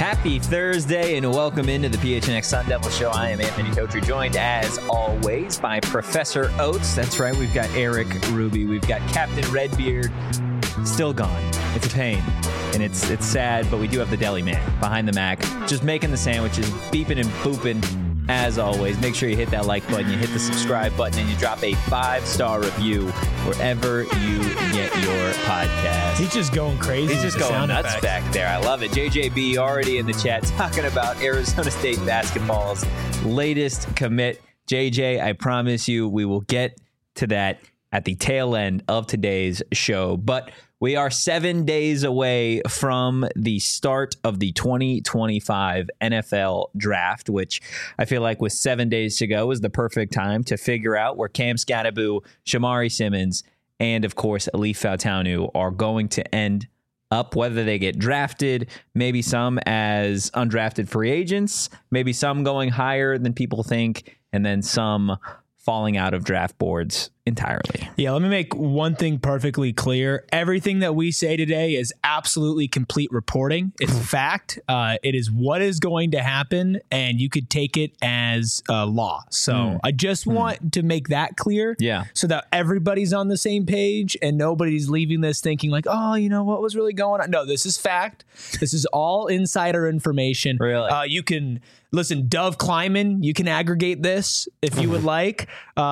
Happy Thursday and welcome into the PHNX Sun Devil Show. I am Anthony Totri, joined as always by Professor Oates. That's right, we've got Eric Ruby, we've got Captain Redbeard, still gone. It's a pain and it's sad, but we do have the deli man behind the Mac, just making the sandwiches, beeping and booping. As always, make sure you hit that like button, you hit the subscribe button, and you drop a 5-star review wherever you get your podcast. He's just going crazy. He's just going nuts back there. I love it. JJB already in the chat talking about Arizona State basketball's latest commit. JJ, I promise you we will get to that at the tail end of today's show. But we are 7 days away from the start of the 2025 NFL draft, which I feel like with 7 days to go is the perfect time to figure out where Cam Skattebo, Shamari Simmons, and of course, Alif Fautaunu are going to end up, whether they get drafted, maybe some as undrafted free agents, maybe some going higher than people think, and then some falling out of draft boards entirely. Yeah, let me make one thing perfectly clear. Everything that we say today is absolutely complete reporting. It's fact. It is what is going to happen, and you could take it as law. So I just want to make that clear, so that everybody's on the same page and nobody's leaving this thinking like, oh, you know, what was really going on? No, this is fact. This is all insider information. Really? You can listen, Dove Kleiman, you can aggregate this if you would like.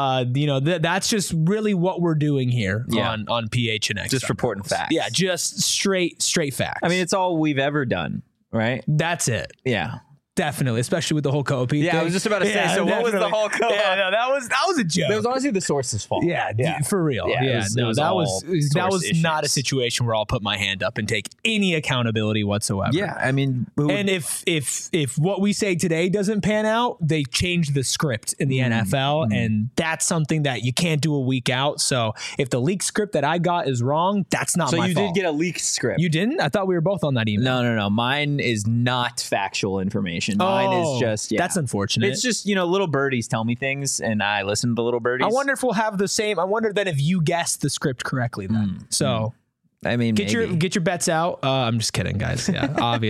That's just really what we're doing here on PHNX. Just reporting facts. Yeah, just straight facts. I mean, it's all we've ever done, right? That's it. Yeah. Definitely, especially with the whole Kobe thing. I was just about to say, so what was the whole Kobe? Yeah, no, that was a joke. That was honestly the source's fault. Yeah, for real. Yeah, that was not a situation where I'll put my hand up and take any accountability whatsoever. Yeah, I mean, and if what we say today doesn't pan out, they change the script in the NFL, and that's something that you can't do a week out. So if the leaked script that I got is wrong, that's not my fault. So you did get a leaked script. You didn't? I thought we were both on that email. No. Mine is not factual information. Mine is just, that's unfortunate. It's just, little birdies tell me things and I listen to the little birdies. I wonder if we'll have the same. I wonder then if you guessed the script correctly then. I mean, get your bets out. I'm just kidding, guys. Yeah,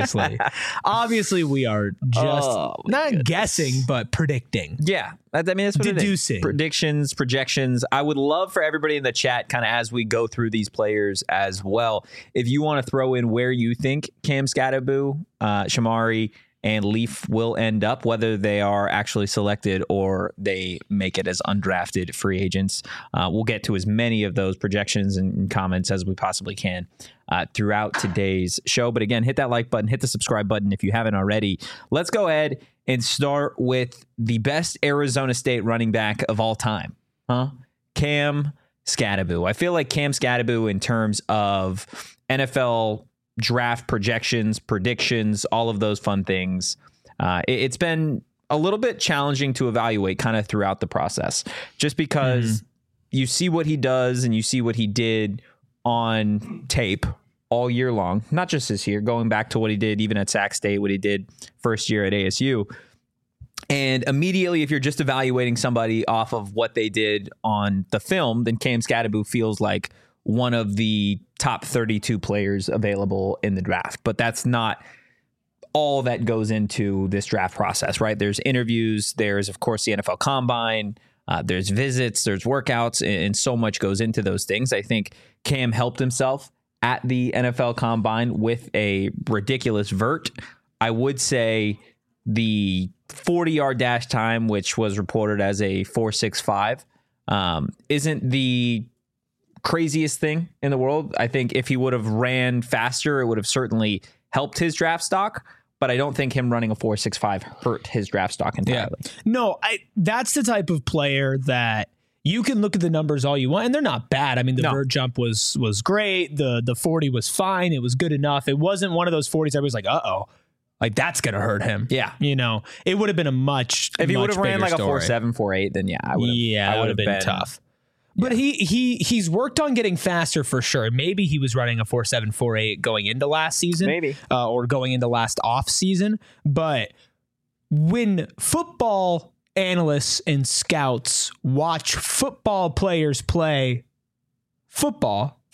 obviously we are just guessing, but predicting. Yeah, I mean that's what deducing. Predictions, projections. I would love for everybody in the chat, kind of as we go through these players as well, if you want to throw in where you think Cam Skattebo, Shamari, and Leaf will end up, whether they are actually selected or they make it as undrafted free agents. We'll get to as many of those projections and comments as we possibly can throughout today's show. But again, hit that like button, hit the subscribe button if you haven't already. Let's go ahead and start with the best Arizona State running back of all time, Cam Skattebo. I feel like Cam Skattebo, in terms of NFL draft projections, predictions, all of those fun things, it's been a little bit challenging to evaluate kind of throughout the process, just because you see what he does and you see what he did on tape all year long, not just this year, going back to what he did even at Sac State, what he did first year at ASU. And immediately, if you're just evaluating somebody off of what they did on the film, then Cam Skattebo feels like one of the top 32 players available in the draft. But that's not all that goes into this draft process, right? There's interviews, there's, of course, the NFL Combine, there's visits, there's workouts, and so much goes into those things. I think Cam helped himself at the NFL Combine with a ridiculous vert. I would say the 40-yard dash time, which was reported as a 4.65, isn't the craziest thing in the world. I think if he would have ran faster, it would have certainly helped his draft stock. But I don't think him running a 4.65 hurt his draft stock entirely. Yeah. No, that's the type of player that you can look at the numbers all you want, and they're not bad. I mean, the vert jump was great. The 40 was fine. It was good enough. It wasn't one of those 40s I was like, uh-oh. Like, that's going to hurt him. Yeah. It would have been a much If he would have ran like a 4.7, 4.8, then I would have been tough. But he's worked on getting faster for sure. Maybe he was running a 4.7, 4.8 going into last season. Maybe. Or going into last off season. But when football analysts and scouts watch football players play football,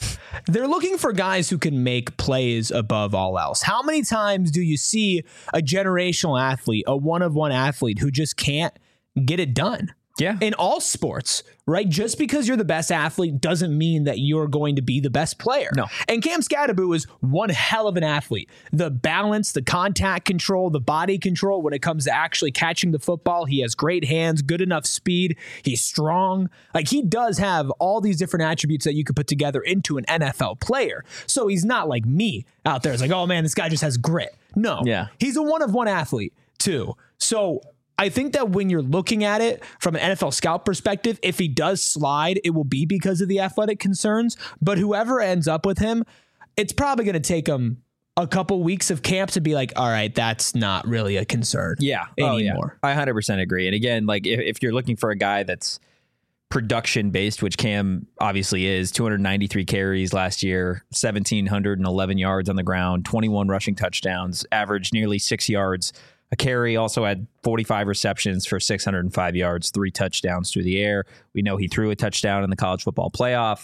They're looking for guys who can make plays above all else. How many times do you see a generational athlete, a one-of-one athlete who just can't get it done? Yeah. In all sports, right? Just because you're the best athlete doesn't mean that you're going to be the best player. No. And Cam Skattebo is one hell of an athlete. The balance, the contact control, the body control when it comes to actually catching the football. He has great hands, good enough speed. He's strong. Like, he does have all these different attributes that you could put together into an NFL player. So he's not like me out there. It's like, oh man, this guy just has grit. No. Yeah. He's a one-of-one athlete too. So I think that when you're looking at it from an NFL scout perspective, if he does slide, it will be because of the athletic concerns. But whoever ends up with him, it's probably going to take him a couple weeks of camp to be like, all right, that's not really a concern anymore. I 100% agree. And again, like if you're looking for a guy that's production based, which Cam obviously is, 293 carries last year, 1,711 yards on the ground, 21 rushing touchdowns, averaged nearly 6 yards a carry, also had 45 receptions for 605 yards, 3 touchdowns through the air. We know he threw a touchdown in the college football playoff.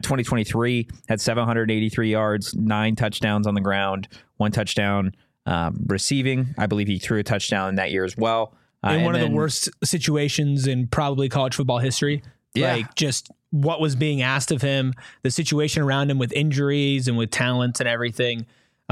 2023 had 783 yards, 9 touchdowns on the ground, 1 touchdown receiving. I believe he threw a touchdown in that year as well. In one of the worst situations in probably college football history. Yeah. Like, just what was being asked of him, the situation around him with injuries and with talents and everything.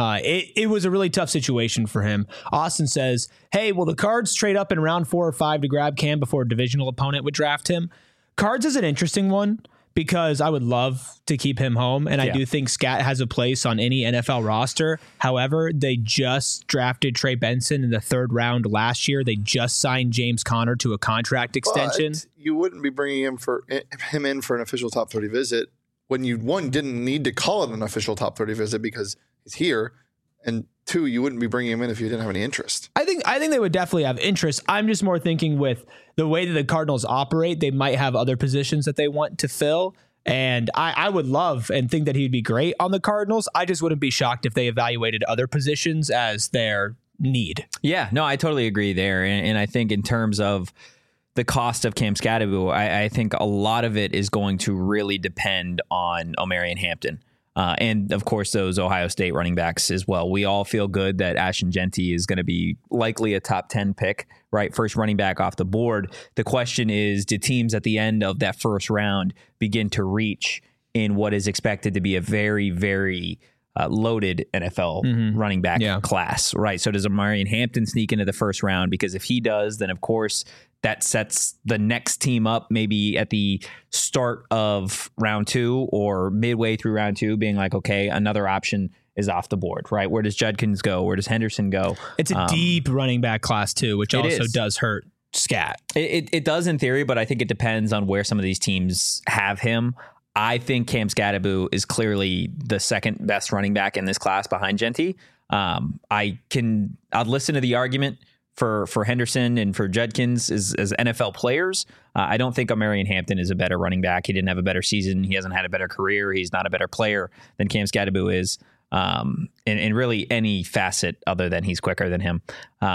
It was a really tough situation for him. Austin says, hey, will the Cards trade up in round 4 or 5 to grab Cam before a divisional opponent would draft him? Cards is an interesting one because I would love to keep him home. And I do think Scat has a place on any NFL roster. However, they just drafted Trey Benson in the 3rd round last year. They just signed James Conner to a contract extension. But you wouldn't be bringing him in for an official top 30 visit when you, 1, didn't need to call it an official top 30 visit because he's here, and 2, you wouldn't be bringing him in if you didn't have any interest. I think they would definitely have interest. I'm just more thinking with the way that the Cardinals operate, they might have other positions that they want to fill. And I would love and think that he'd be great on the Cardinals. I just wouldn't be shocked if they evaluated other positions as their need. Yeah, no, I totally agree there. And I think in terms of the cost of Cam Skattebo, I think a lot of it is going to really depend on Omarion Hampton. And of course, those Ohio State running backs as well. We all feel good that Ashton Jeanty is going to be likely a top 10 pick, right? First running back off the board. The question is, do teams at the end of that first round begin to reach in what is expected to be a very, very loaded NFL running back class, right? So does Omarion Hampton sneak into the first round? Because if he does, then of course that sets the next team up maybe at the start of round 2 or midway through round 2 being like, okay, another option is off the board, right? Where does Judkins go? Where does Henderson go? It's a deep running back class too, which also does hurt Scat. It does in theory, but I think it depends on where some of these teams have him. I think Cam Skattebo is clearly the second best running back in this class behind Jeanty. I'd listen to the argument for Henderson and for Judkins as NFL players. I don't think Omarion Hampton is a better running back. He didn't have a better season. He hasn't had a better career. He's not a better player than Cam Skattebo is in really any facet other than he's quicker than him.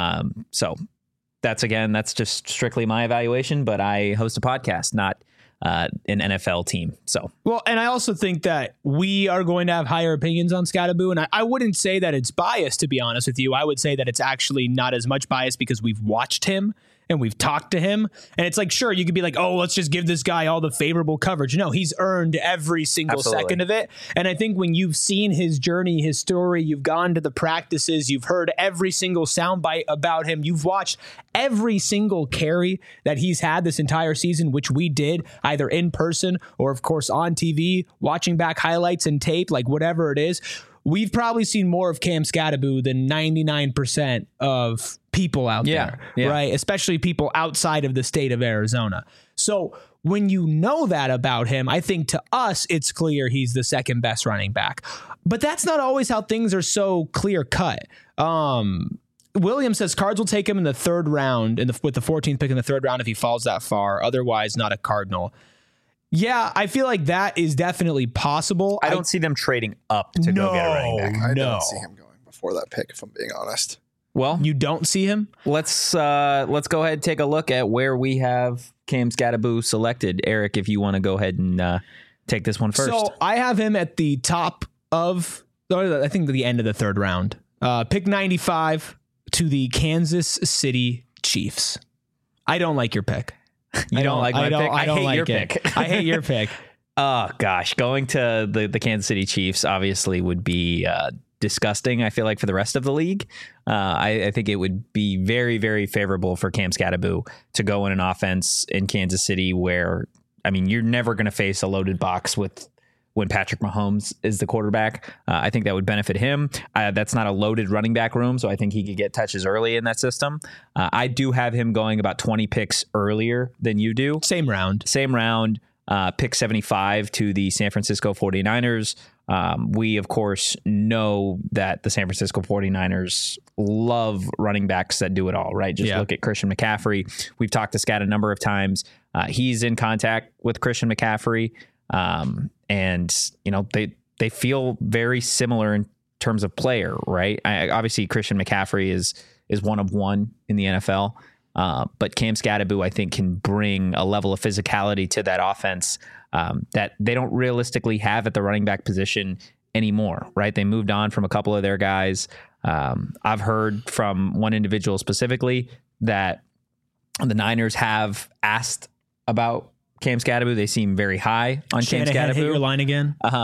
So that's just strictly my evaluation, but I host a podcast, not an NFL team. So, well, and I also think that we are going to have higher opinions on Skattebo, and I wouldn't say that it's biased, to be honest with you. I would say that it's actually not as much bias because we've watched him and we've talked to him, and it's like, sure, you could be like, oh, let's just give this guy all the favorable coverage. No, he's earned every single second of it. And I think when you've seen his journey, his story, you've gone to the practices, you've heard every single soundbite about him, you've watched every single carry that he's had this entire season, which we did either in person or, of course, on TV, watching back highlights and tape, like whatever it is. We've probably seen more of Cam Skattebo than 99% of people out there, right? Especially people outside of the state of Arizona. So when you know that about him, I think to us, it's clear he's the second best running back. But that's not always how things are so clear cut. William says Cards will take him in the 3rd round with the 14th pick in the 3rd round if he falls that far. Otherwise, not a Cardinal. Yeah, I feel like that is definitely possible. I don't see them trading up to go get a running back. I don't see him going before that pick, if I'm being honest. Well, you don't see him? Let's go ahead and take a look at where we have Cam Skattebo selected. Eric, if you want to go ahead and take this one first. So I have him at the top of, I think the end of the third round. Pick 95 to the Kansas City Chiefs. I don't like your pick. You don't like my pick? I don't hate like your it. pick. I hate your pick. Oh, gosh. Going to the Kansas City Chiefs obviously would be disgusting, I feel like, for the rest of the league. I think it would be very, very favorable for Cam Skattebo to go in an offense in Kansas City where, I mean, you're never going to face a loaded box when Patrick Mahomes is the quarterback. I think that would benefit him. That's not a loaded running back room, so I think he could get touches early in that system. I do have him going about 20 picks earlier than you do. Same round. Pick 75 to the San Francisco 49ers. We, of course, know that the San Francisco 49ers love running backs that do it all, right? Just look at Christian McCaffrey. We've talked to Scat a number of times. He's in contact with Christian McCaffrey. And, you know, they feel very similar in terms of player, right? Obviously, Christian McCaffrey is one of one in the NFL. But Cam Skattebo, I think, can bring a level of physicality to that offense that they don't realistically have at the running back position anymore, right? They moved on from a couple of their guys. I've heard from one individual specifically that the Niners have asked about Cam Skattebo. They seem very high on Cam Skattebo. Hit your line again. I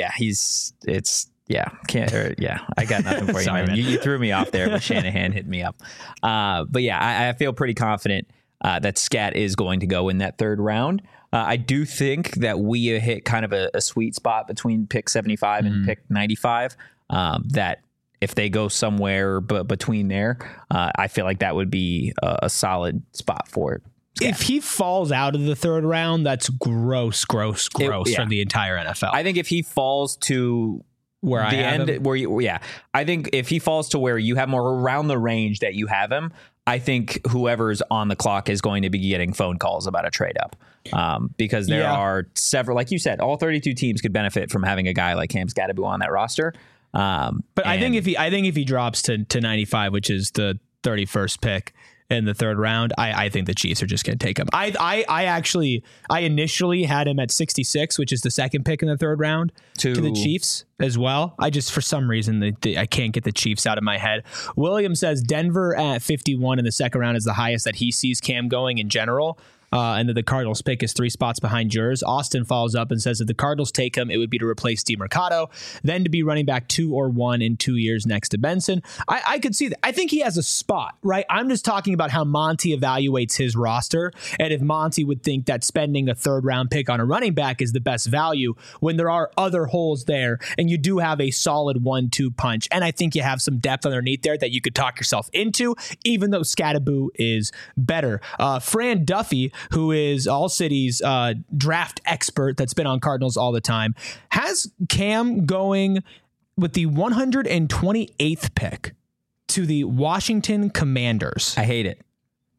got nothing for you. Sorry, man. You threw me off there, but Shanahan hit me up. But yeah, I feel pretty confident that Scat is going to go in that third round. I do think that we hit kind of a sweet spot between pick 75 and pick 95. That if they go somewhere between there, I feel like that would be a solid spot for it. Scat. If he falls out of the third round, that's gross for the entire NFL. I think if he falls to where I have him. I think if he falls to where you have more around the range that you have him, I think whoever's on the clock is going to be getting phone calls about a trade up, because there are several, like you said, all 32 teams could benefit from having a guy like Cam Skattebo on that roster. But I think if he drops to 95, which is the 31st pick in the third round, I think the Chiefs are just going to take him. I initially had him at 66, which is the second pick in the third round to the Chiefs as well. I just, for some reason, I can't get the Chiefs out of my head. William says Denver at 51 in the second round is the highest that he sees Cam going in general. And that the Cardinals pick is 3 spots behind yours. Austin follows up and says if the Cardinals take him, it would be to replace DeMercado, then to be running back 2 or 1 in 2 years next to Benson. I could see that. I think he has a spot, right? I'm just talking about how Monty evaluates his roster, and if Monty would think that spending a third round pick on a running back is the best value when there are other holes there, and you do have a solid 1-2 punch. And I think you have some depth underneath there that you could talk yourself into, even though Skattebo is better. Fran Duffy, who is All City's draft expert that's been on Cardinals all the time, has Cam going with the 128th pick to the Washington Commanders. I hate it.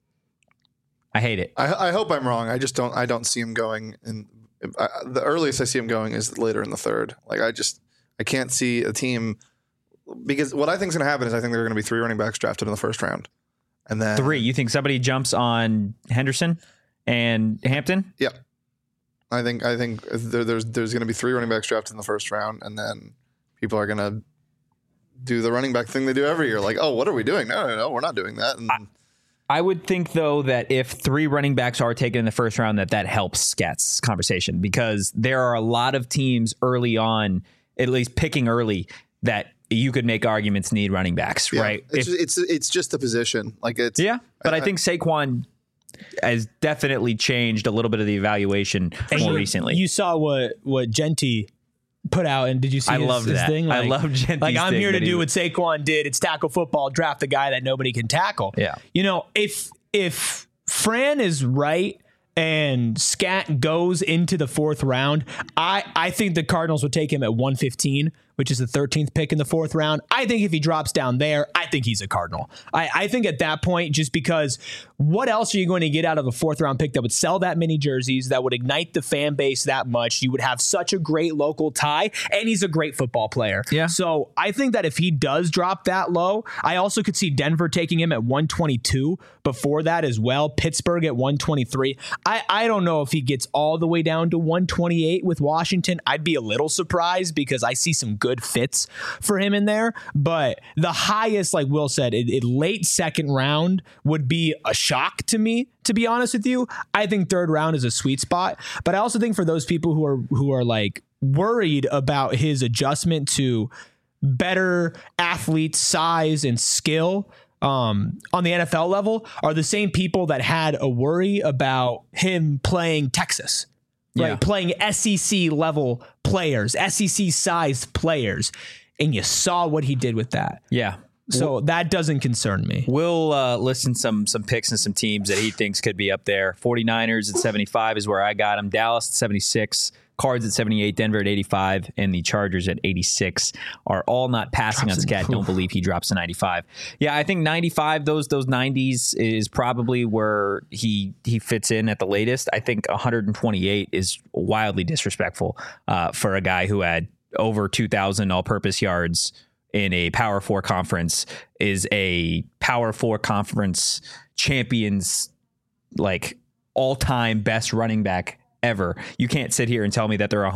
I hope I'm wrong. I don't see him going in. The earliest I see him going is later in the third. Like I can't see a team, because what I think is going to happen is I think there are going to be 3 running backs drafted in the first round. And then 3. You think somebody jumps on Henderson and Hampton? Yeah. I think there's going to be 3 running backs drafted in the first round, and then people are going to do the running back thing they do every year. Like, oh, what are we doing? No, we're not doing that. And I would think, though, that if 3 running backs are taken in the first round, that helps Scat's conversation, because there are a lot of teams early on, at least picking early, that you could make arguments need running backs, right? It's just the position. Like it's but I think Saquon has definitely changed a little bit of the evaluation more recently. You saw what Genty put out, and did you see his thing? Like, I love Genty's like, I'm here to do what Saquon did. It's tackle football, draft the guy that nobody can tackle. Yeah. You know, if Fran is right and Scat goes into the 4th round, I think the Cardinals would take him at 115 which is the 13th pick in the 4th round. I think if he drops down there, I think he's a Cardinal. I think at that point, just because what else are you going to get out of a 4th round pick that would sell that many jerseys, that would ignite the fan base that much? You would have such a great local tie, and he's a great football player. Yeah. So I think that if he does drop that low, I also could see Denver taking him at 122 before that as well. Pittsburgh at 123. I don't know if he gets all the way down to 128 with Washington. I'd be a little surprised because I see some good fits for him in there. But the highest, like Will said, late 2nd round would be a shock to me, to be honest with you. I think 3rd round is a sweet spot. But I also think for those people who are like worried about his adjustment to better athlete size and skill on the NFL level are the same people that had a worry about him playing Texas, right? Yeah. Playing SEC level players, SEC sized players. And you saw what he did with that. Yeah. So that doesn't concern me. We'll listen some picks and some teams that he thinks could be up there. 49ers at 75 is where I got him. Dallas at 76. Cards at 78, Denver at 85, and the Chargers at 86 are all not passing on Scat. Don't believe he drops to 95. Yeah, I think 95, those 90s is probably where he fits in at the latest. I think 128 is wildly disrespectful for a guy who had over 2,000 all-purpose yards in a Power 4 conference, is a Power 4 conference champions, like all-time best running back ever. You can't sit here and tell me that there are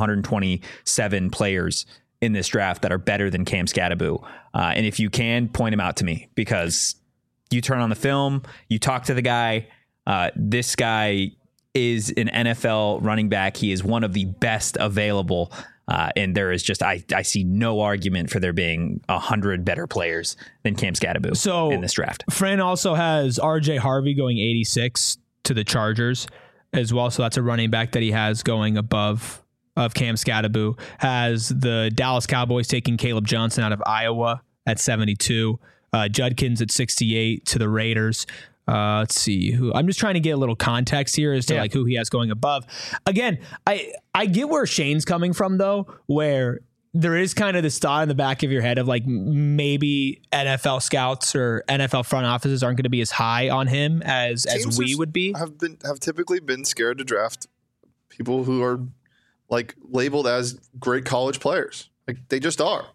127 players in this draft that are better than Cam Skattebo. And if you can, point him out to me, because you turn on the film, you talk to the guy. This guy is an NFL running back. He is one of the best available. And there is just, I see no argument for there being 100 better players than Cam Skattebo in this draft. Fran also has RJ Harvey going 86 to the Chargers as well. So that's a running back that he has going above of Cam Skattebo. Has the Dallas Cowboys taking Caleb Johnson out of Iowa at 72. Judkins at 68 to the Raiders. Let's see who. I'm just trying to get a little context here as to like who he has going above. Again, I get where Shane's coming from though, where there is kind of this thought in the back of your head of like maybe NFL scouts or NFL front offices aren't going to be as high on him as we would be. Have typically been scared to draft people who are like labeled as great college players. Like they just are.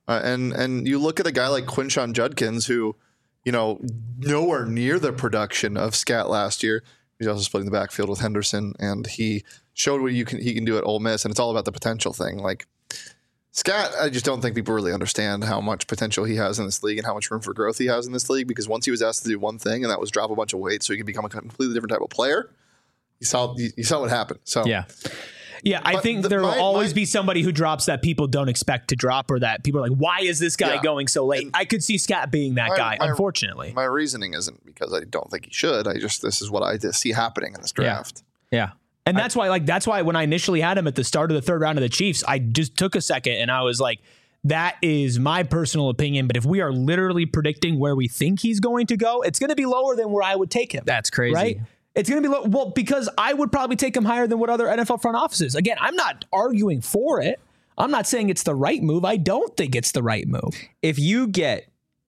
And you look at a guy like Quinshon Judkins, who, you know, nowhere near the production of Scat last year. He's also splitting the backfield with Henderson, and he showed what he can do at Ole Miss, and it's all about the potential thing. Like Scat, I just don't think people really understand how much potential he has in this league and how much room for growth he has in this league, because once he was asked to do one thing, and that was drop a bunch of weight so he could become a completely different type of player, you saw what happened. So yeah, I think there will always be somebody who drops that people don't expect to drop, or that people are like, why is this guy going so late? And I could see Scat being that guy, unfortunately. My reasoning isn't because I don't think he should. This is what I just see happening in this draft. Yeah. And that's why when I initially had him at the start of the 3rd round of the Chiefs, I just took a second and I was like, that is my personal opinion. But if we are literally predicting where we think he's going to go, it's going to be lower than where I would take him. That's crazy. Right? It's going to be low. Well, because I would probably take him higher than what other NFL front offices. Again, I'm not arguing for it. I'm not saying it's the right move. I don't think it's the right move. If you get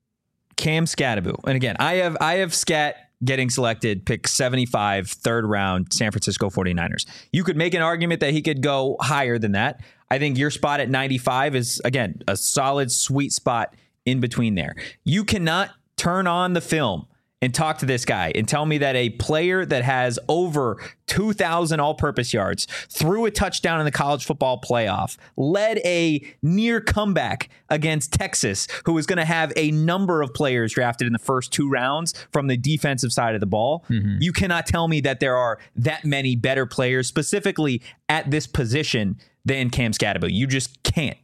Cam Skattebo, and again, I have Scat getting selected, pick 75, 3rd round, San Francisco 49ers. You could make an argument that he could go higher than that. I think your spot at 95 is, again, a solid, sweet spot in between there. You cannot turn on the film and talk to this guy and tell me that a player that has over 2,000 all-purpose yards, threw a touchdown in the college football playoff, led a near comeback against Texas, who is going to have a number of players drafted in the first 2 rounds from the defensive side of the ball. Mm-hmm. You cannot tell me that there are that many better players specifically at this position than Cam Skattebo. You just can't.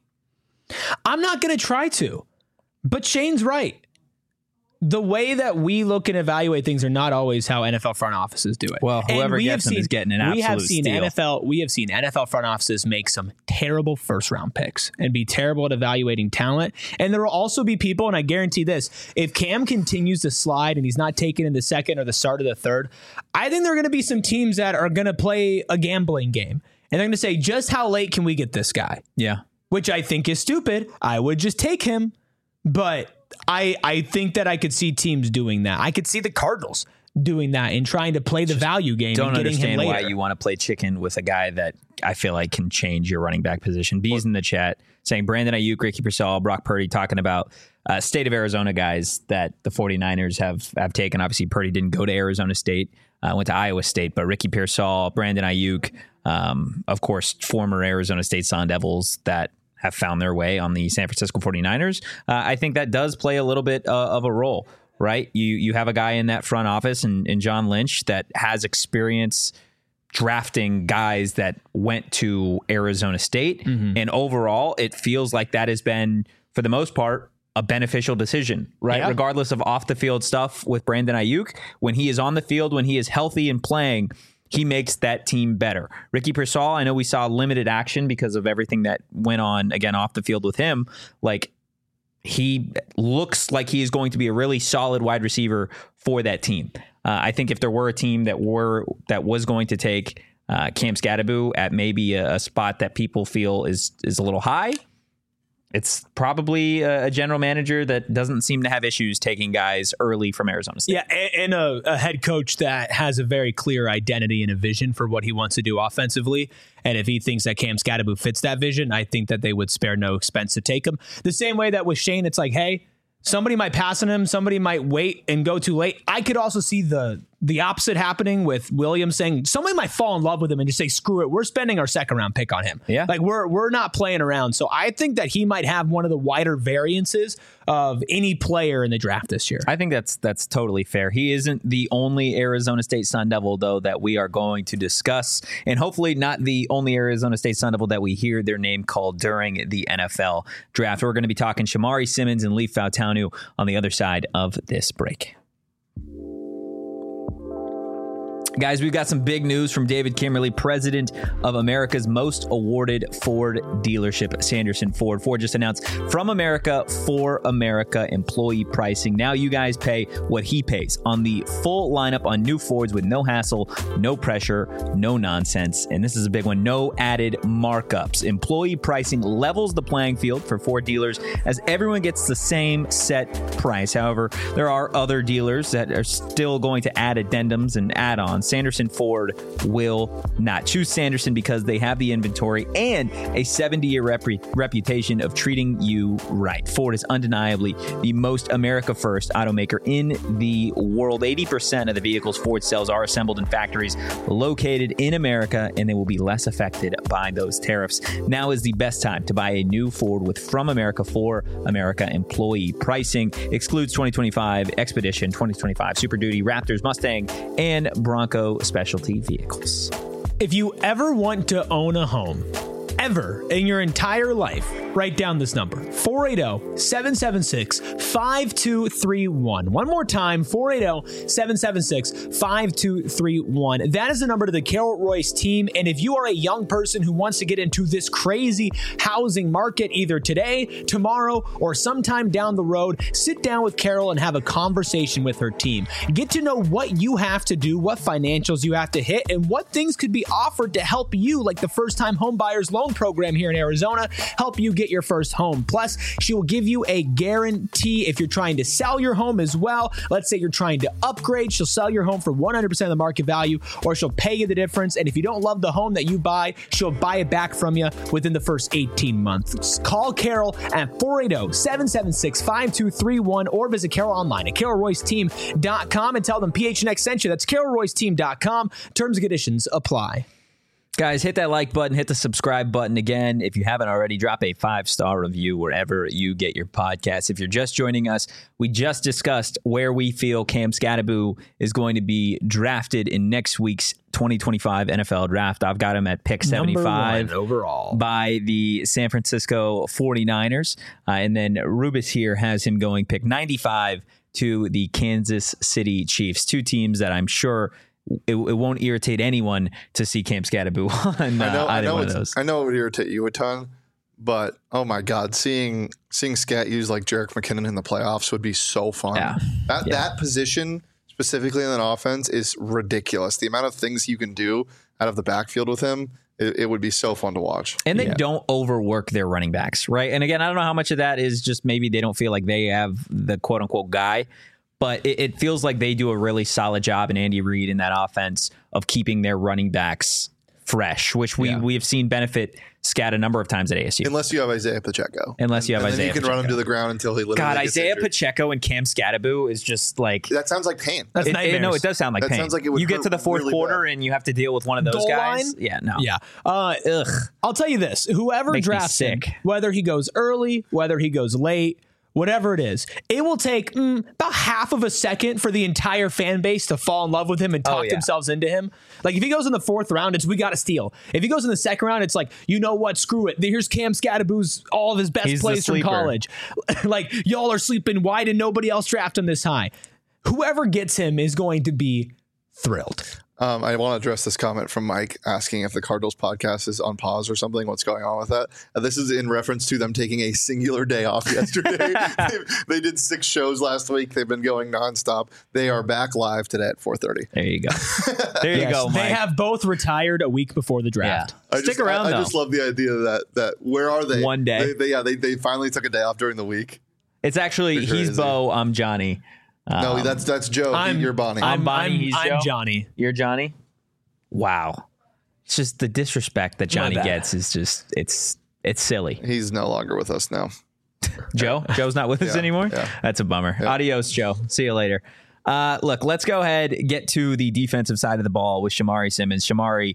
I'm not going to try to, but Shane's right. The way that we look and evaluate things are not always how NFL front offices do it. Well, whoever gets them is getting an absolute steal. We have seen NFL front offices make some terrible 1st round picks and be terrible at evaluating talent. And there will also be people, and I guarantee this, if Cam continues to slide and he's not taken in the 2nd or the start of the 3rd, I think there are going to be some teams that are going to play a gambling game. And they're going to say, just how late can we get this guy? Yeah. which I think is stupid, I would just take him. But I think that I could see teams doing that. I could see the Cardinals doing that and trying to play the value game. Don't and getting understand him why later. you want to play chicken with a guy that I feel like can change your running back position. B's in the chat saying Brandon Ayuk, Ricky Pearsall, Brock Purdy, talking about state of Arizona guys that the 49ers have taken. Obviously, Purdy didn't go to Arizona State, went to Iowa State, but Ricky Pearsall, Brandon Ayuk, of course, former Arizona State Sun Devils that have found their way on the San Francisco 49ers. I think that does play a little bit of a role, right? You have a guy in that front office and John Lynch that has experience drafting guys that went to Arizona State. And overall, it feels like that has been, for the most part, a beneficial decision, right? Yeah. Regardless of off the field stuff with Brandon Ayuk, when he is on the field, when he is healthy and playing, he makes that team better. Ricky Pearsall, I know we saw limited action because of everything that went on, again, off the field with him. Like, he looks like he is going to be a really solid wide receiver for that team. I think if there were a team that was going to take Cam Skattebo at maybe a spot that people feel is a little high, it's probably a general manager that doesn't seem to have issues taking guys early from Arizona State. Yeah, and a head coach that has a very clear identity and a vision for what he wants to do offensively. And if he thinks that Cam Skattebo fits that vision, I think that they would spare no expense to take him. The same way that with Shane, it's like, hey, somebody might pass on him, somebody might wait and go too late. I could also see the opposite happening with Williams saying somebody might fall in love with him and just say, screw it, we're spending our second round pick on him. Yeah. Like we're not playing around. So I think that he might have one of the wider variances of any player in the draft this year. I think that's totally fair. He isn't the only Arizona State Sun Devil, though, that we are going to discuss, and hopefully not the only Arizona State Sun Devil that we hear their name called during the NFL draft. We're going to be talking Shamari Simmons and Leif Fautanu on the other side of this break. Guys, we've got some big news from David Kimmerly, president of America's most awarded Ford dealership, Sanderson Ford. Ford just announced From America for America employee pricing. Now you guys pay what he pays on the full lineup on new Fords with no hassle, no pressure, no nonsense. And this is a big one, no added markups. Employee pricing levels the playing field for Ford dealers as everyone gets the same set price. However, there are other dealers that are still going to add addendums and add-ons. Sanderson Ford will not. Choose Sanderson because they have the inventory and a 70-year reputation of treating you right. Ford is undeniably the most America First automaker in the world. 80% of the vehicles Ford sells are assembled in factories located in America, and they will be less affected by those tariffs. Now is the best time to buy a new Ford with From America for America employee pricing. Excludes 2025 Expedition, 2025 Super Duty, Raptors, Mustang, and Bronco specialty vehicles. If you ever want to own a home, ever in your entire life, write down this number, 480-776-5231. One more time, 480-776-5231. That is the number to the Carol Royce team. And if you are a young person who wants to get into this crazy housing market, either today, tomorrow, or sometime down the road, sit down with Carol and have a conversation with her team. Get to know what you have to do, what financials you have to hit, and what things could be offered to help you, like the first-time home buyers loan program here in Arizona, help you get your first home. Plus, she will give you a guarantee if you're trying to sell your home as well. Let's say you're trying to upgrade, she'll sell your home for 100% of the market value, or she'll pay you the difference. And if you don't love the home that you buy, she'll buy it back from you within the first 18 months. Call Carol at 480-776-5231 or visit Carol online at carolroyceteam.com and tell them PHNX sent you. That's carolroyceteam.com. Terms and conditions apply. Guys, hit that like button, hit the subscribe button again. If you haven't already, drop a 5-star review wherever you get your podcasts. If you're just joining us, we just discussed where we feel Cam Skattebo is going to be drafted in next week's 2025 NFL draft. I've got him at pick 75 overall by the San Francisco 49ers. And then Rubis here has him going pick 95 to the Kansas City Chiefs. Two teams that I'm sure it won't irritate anyone to see Cam Skattebo on either one of those. I know it would irritate you a ton, but oh my God, seeing Scat use like Jerick McKinnon in the playoffs would be so fun. Yeah. That position specifically in that offense is ridiculous. The amount of things you can do out of the backfield with him it would be so fun to watch. And they don't overwork their running backs, right? And again, I don't know how much of that is just maybe they don't feel like they have the quote unquote guy, but it feels like they do a really solid job in Andy Reid in that offense of keeping their running backs fresh, which we have seen benefit Scat a number of times at ASU. Unless you have Isaiah Pacheco. And then you can run him to the ground until he literally gets Isaiah injured. Pacheco and Cam Scatterbo is just like... That sounds like pain. That's nightmares. No, it does sound like That pain. sounds like it would you get to the fourth really quarter bad. and you have to deal with one of those Goal guys. line? Yeah, no. Yeah. Ugh. I'll tell you this. Whoever Makes me drafts him, sick. whether he goes early, whether he goes late, whatever it is, it will take about half of a second for the entire fan base to fall in love with him and talk themselves into him. Like if he goes in the fourth round, it's we got to steal. If he goes in the second round, it's like, you know what, screw it. Here's Cam Scatterbo's all of his best He's plays the from sleeper. college. Like y'all are sleeping. Why did nobody else draft him this high? Whoever gets him is going to be thrilled. I want to address this comment from Mike asking if the Cardinals podcast is on pause or something. What's going on with that? This is in reference to them taking a singular day off yesterday. They did 6 shows last week. They've been going nonstop. They are back live today at 4:30. There you go. There you go, Mike. They have both retired a week before the draft. Stick around, I though. just love the idea that where are they? One day. They finally took a day off during the week. It's actually, he's Bo, I'm Johnny. No, that's Joe. You're Bonnie. I'm Bonnie, he's Joe. I'm Johnny. You're Johnny? Wow. It's just the disrespect that Johnny bad. gets is just, it's silly. He's no longer with us now. Joe's not with us anymore? Yeah. That's a bummer. Adios, Joe. See you later. Look, let's go ahead, get to the defensive side of the ball with Shamari Simmons. Shamari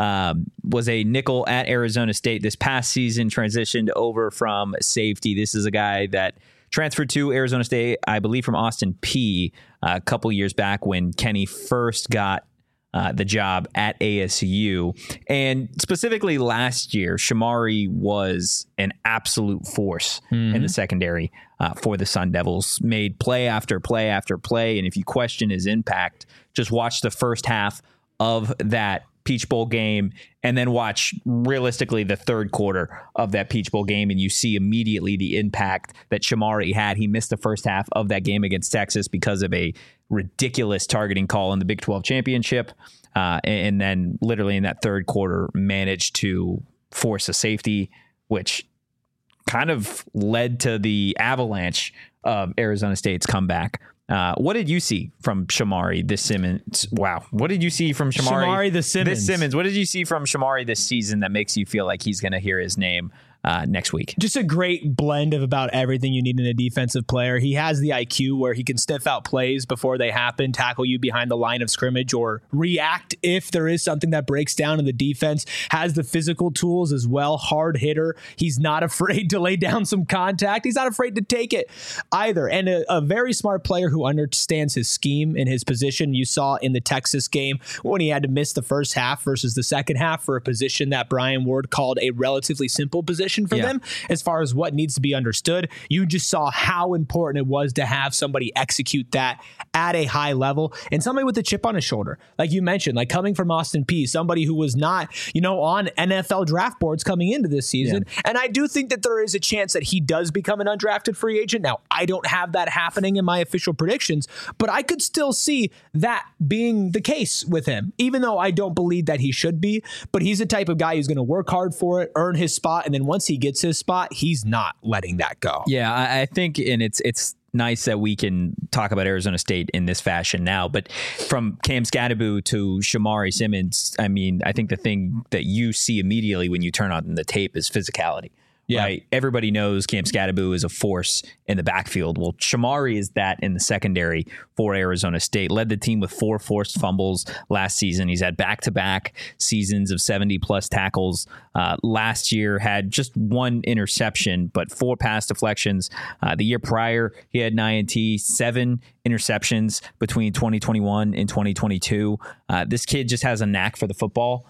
was a nickel at Arizona State this past season, transitioned over from safety. This is a guy that transferred to Arizona State, I believe, from Austin Peay a couple years back when Kenny first got the job at ASU. And specifically last year, Shamari was an absolute force in the secondary for the Sun Devils, made play after play after play. And if you question his impact, just watch the first half of that Peach Bowl game and then watch realistically the third quarter of that Peach Bowl game, and you see immediately the impact that Shamari had. He missed the first half of that game against Texas because of a ridiculous targeting call in the Big 12 championship, and then literally in that third quarter managed to force a safety, which kind of led to the avalanche of Arizona State's comeback. What did you see from Shamari this Simmons? Wow. What did you see from Shamari the Simmons. This Simmons. What did you see from Shamari this season that makes you feel like he's going to hear his name next week? Just a great blend of about everything you need in a defensive player. He has the IQ where he can sniff out plays before they happen, tackle you behind the line of scrimmage, or react if there is something that breaks down in the defense. Has the physical tools as well. Hard hitter. He's not afraid to lay down some contact. He's not afraid to take it either. And a very smart player who understands his scheme and his position. You saw in the Texas game when he had to miss the first half versus the second half for a position that Brian Ward called a relatively simple position for them as far as what needs to be understood. You just saw how important it was to have somebody execute that at a high level, and somebody with a chip on his shoulder. Like you mentioned, like coming from Austin Peay, somebody who was not, on NFL draft boards coming into this season. Yeah. And I do think that there is a chance that he does become an undrafted free agent. Now, I don't have that happening in my official predictions, but I could still see that being the case with him, even though I don't believe that he should be. But he's the type of guy who's going to work hard for it, earn his spot, and then once he gets his spot, he's not letting that go. Yeah, I think, and it's nice that we can talk about Arizona State in this fashion now, but from Cam Scatterbo to Shamari Simmons, I mean, I think the thing that you see immediately when you turn on the tape is physicality. Yeah. Right? Everybody knows Cam Scatterbo is a force in the backfield. Well, Shamari is that in the secondary for Arizona State. Led the team with 4 forced fumbles last season. He's had back-to-back seasons of 70-plus tackles. Last year had just 1 interception, but 4 pass deflections. The year prior, he had 9 INT, 7 interceptions between 2021 and 2022. This kid just has a knack for the football.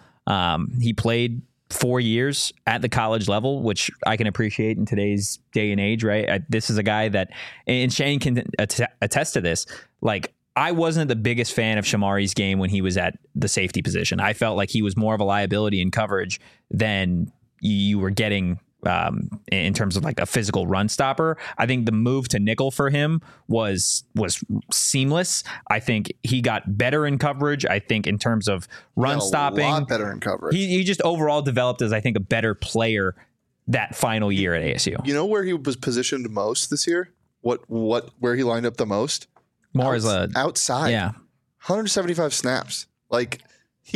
He played 4 years at the college level, which I can appreciate in today's day and age, right? This is a guy that, and Shane can attest to this, like, I wasn't the biggest fan of Shamari's game when he was at the safety position. I felt like he was more of a liability in coverage than you were getting in terms of like a physical run stopper. I think the move to nickel for him was seamless. I think he got better in coverage. I think in terms of run stopping, a lot better in coverage. He just overall developed as, I think, a better player that final year at ASU. You know where he was positioned most this year? Where he lined up the most? More as a outside. Yeah. 175 snaps. Like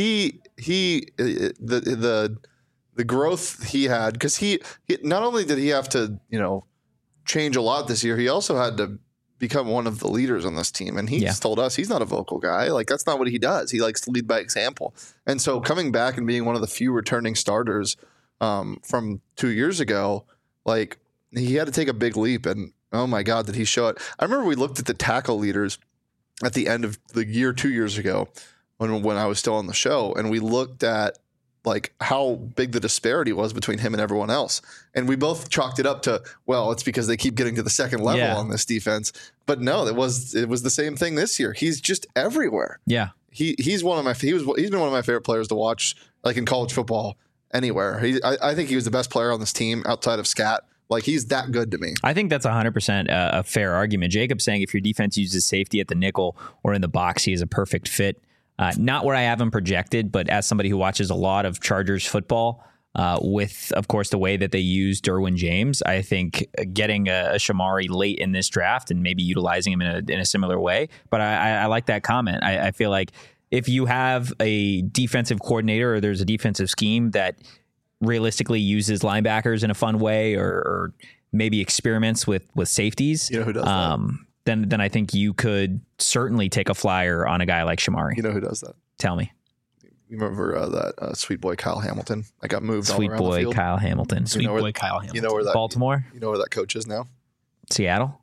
the growth he had, because he not only did he have to, change a lot this year, he also had to become one of the leaders on this team. And he's told us he's not a vocal guy. Like, that's not what he does. He likes to lead by example. And so coming back and being one of the few returning starters from 2 years ago, like, he had to take a big leap. And oh my God, did he show it? I remember we looked at the tackle leaders at the end of the year 2 years ago when I was still on the show, and we looked at like how big the disparity was between him and everyone else. And we both chalked it up to, well, it's because they keep getting to the second level on this defense. But no, it was the same thing this year. He's just everywhere. Yeah. He's been one of my favorite players to watch, like in college football anywhere. I think he was the best player on this team outside of Scat. Like, he's that good to me. I think that's 100% a fair argument. Jacob's saying if your defense uses safety at the nickel or in the box, he is a perfect fit. Not where I have him projected, but as somebody who watches a lot of Chargers football, with, of course, the way that they use Derwin James, I think getting a Shamari late in this draft and maybe utilizing him in a similar way. But I like that comment. I feel like if you have a defensive coordinator or there's a defensive scheme that realistically uses linebackers in a fun way or maybe experiments with safeties, who does that? Then I think you could certainly take a flyer on a guy like Shamari. You know who does that? Tell me. You remember that sweet boy Kyle Hamilton? I got moved Sweet all around the boy field. Kyle Hamilton. Sweet boy Kyle Hamilton. You know where that Baltimore? You know where that coach is now? Seattle?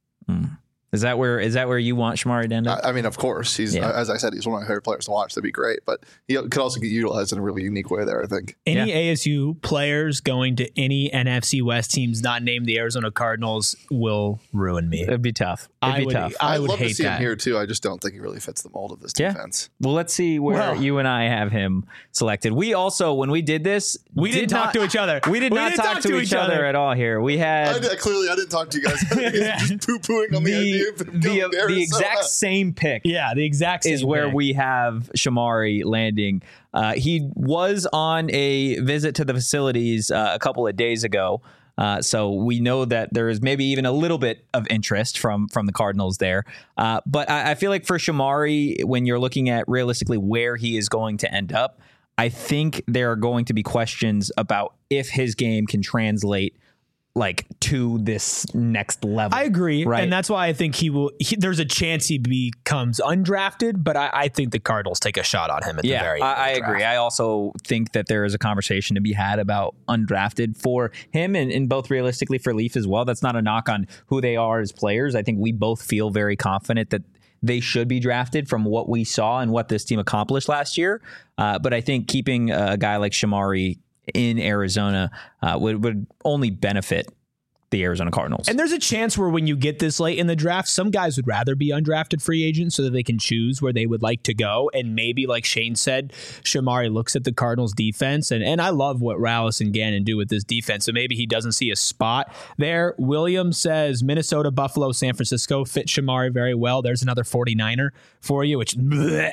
Is that where you want Shamari to end up? I mean, of course. He's as I said, he's one of my favorite players to watch. That'd be great. But he could also get utilized in a really unique way there, I think. Any ASU players going to any NFC West teams not named the Arizona Cardinals will ruin me. It'd be tough. I would I'd love hate to see that. him here too. I just don't think he really fits the mold of this defense. Well, let's see where you and I have him selected. We also, when we did this, we didn't talk to each other. We did not talk to each other at all here. We had clearly I didn't talk to you guys. Just poo-pooing on the idea of him going there. The exact same pick. Yeah, the exact same is where pick. we have Shamari landing. He was on a visit to the facilities a couple of days ago. So we know that there is maybe even a little bit of interest from the Cardinals there. But I feel like for Shamari, when you're looking at realistically where he is going to end up, I think there are going to be questions about if his game can translate like to this next level. I agree. Right? And that's why I think there's a chance he becomes undrafted, but I think the Cardinals take a shot on him at the very end. I agree. I also think that there is a conversation to be had about undrafted for him and both realistically for Leaf as well. That's not a knock on who they are as players. I think we both feel very confident that they should be drafted from what we saw and what this team accomplished last year. But I think keeping a guy like Shamari in Arizona would only benefit the Arizona Cardinals. And there's a chance where when you get this late in the draft, some guys would rather be undrafted free agents so that they can choose where they would like to go. And maybe, like Shane said, Shamari looks at the Cardinals defense. And I love what Rallis and Gannon do with this defense. So maybe he doesn't see a spot there. Williams says Minnesota, Buffalo, San Francisco fit Shamari very well. There's another 49er for you, which... bleh.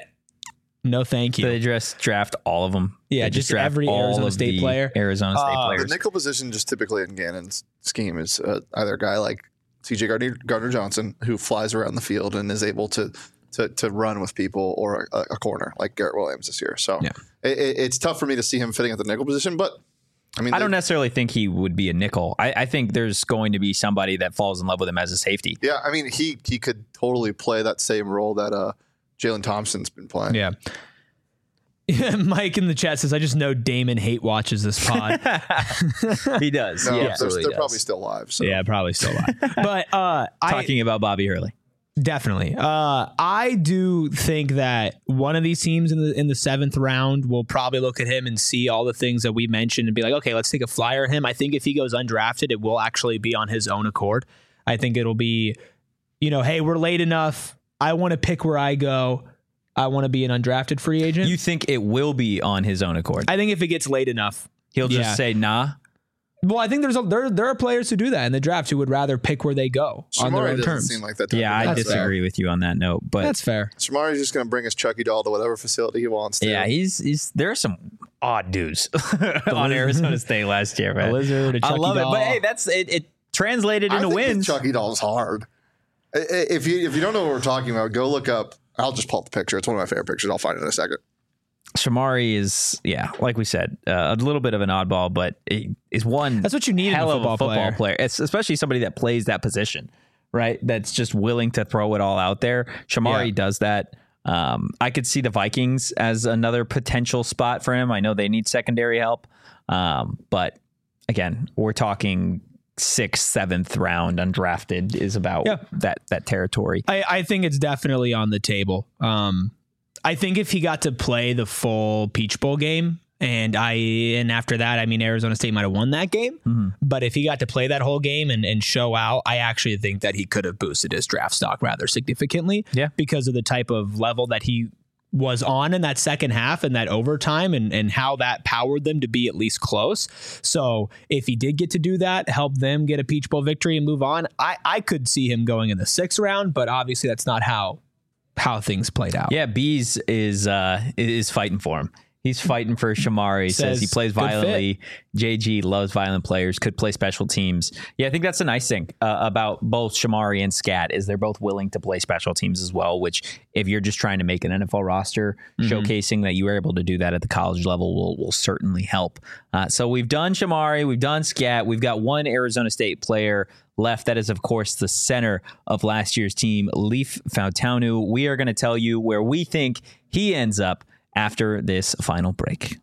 No, thank you. They just draft all of them. Yeah, they just draft every all Arizona of State the player. Arizona State players. The nickel position, just typically in Gannon's scheme, is either a guy like CJ Gardner Johnson, who flies around the field and is able to run with people, or a corner like Garrett Williams this year. So it's tough for me to see him fitting at the nickel position, but I mean, I don't necessarily think he would be a nickel. I think there's going to be somebody that falls in love with him as a safety. Yeah, I mean, he could totally play that same role that Jalen Thompson's been playing. Yeah. Mike in the chat says, I just know Damon hate watches this pod. He does. No, Yeah, they're probably still live. So. Yeah, probably still live. But talking about Bobby Hurley. Definitely. I do think that one of these teams in the 7th round will probably look at him and see all the things that we mentioned and be like, okay, let's take a flyer on him. I think if he goes undrafted, it will actually be on his own accord. I think it'll be, hey, we're late enough. I want to pick where I go. I want to be an undrafted free agent. You think it will be on his own accord? I think if it gets late enough, he'll just say, nah. Well, I think there are players who do that in the draft who would rather pick where they go on their Shamari own doesn't terms. seem like that type Yeah, of guy. I disagree with you on that note, but That's fair. Shamari's just going to bring his Chucky doll to whatever facility he wants to. yeah, he's there are some odd dudes on Arizona State last year, man. A lizard, a I Chucky love doll. it, but hey, that's it translated I into think the wins. Chucky doll's hard. If you don't know what we're talking about, go look up. I'll just pull up the picture. It's one of my favorite pictures. I'll find it in a second. Shamari is, like we said, a little bit of an oddball, but it is one. That's what you need in a hell of a football football player. It's especially somebody that plays that position, right? That's just willing to throw it all out there. Shamari does that. I could see the Vikings as another potential spot for him. I know they need secondary help, but again, we're talking 6th, 7th round undrafted is about that territory. I think it's definitely on the table. I think if he got to play the full Peach Bowl game, and after that, I mean, Arizona State might have won that game. But if he got to play that whole game and show out, I actually think that he could have boosted his draft stock rather significantly. Yeah. Because of the type of level that he was on in that second half and that overtime and how that powered them to be at least close. So if he did get to do that, help them get a Peach Bowl victory and move on, I could see him going in the 6th round, but obviously that's not how things played out. Yeah, Bees is fighting for him. He's fighting for Shamari. Says he plays violently. JG loves violent players, could play special teams. Yeah, I think that's a nice thing about both Shamari and Scat is they're both willing to play special teams as well, which if you're just trying to make an NFL roster, showcasing that you were able to do that at the college level will certainly help. So we've done Shamari, we've done Scat, we've got one Arizona State player left. That is, of course, the center of last year's team, Leif Fautanu. We are going to tell you where we think he ends up after this final break.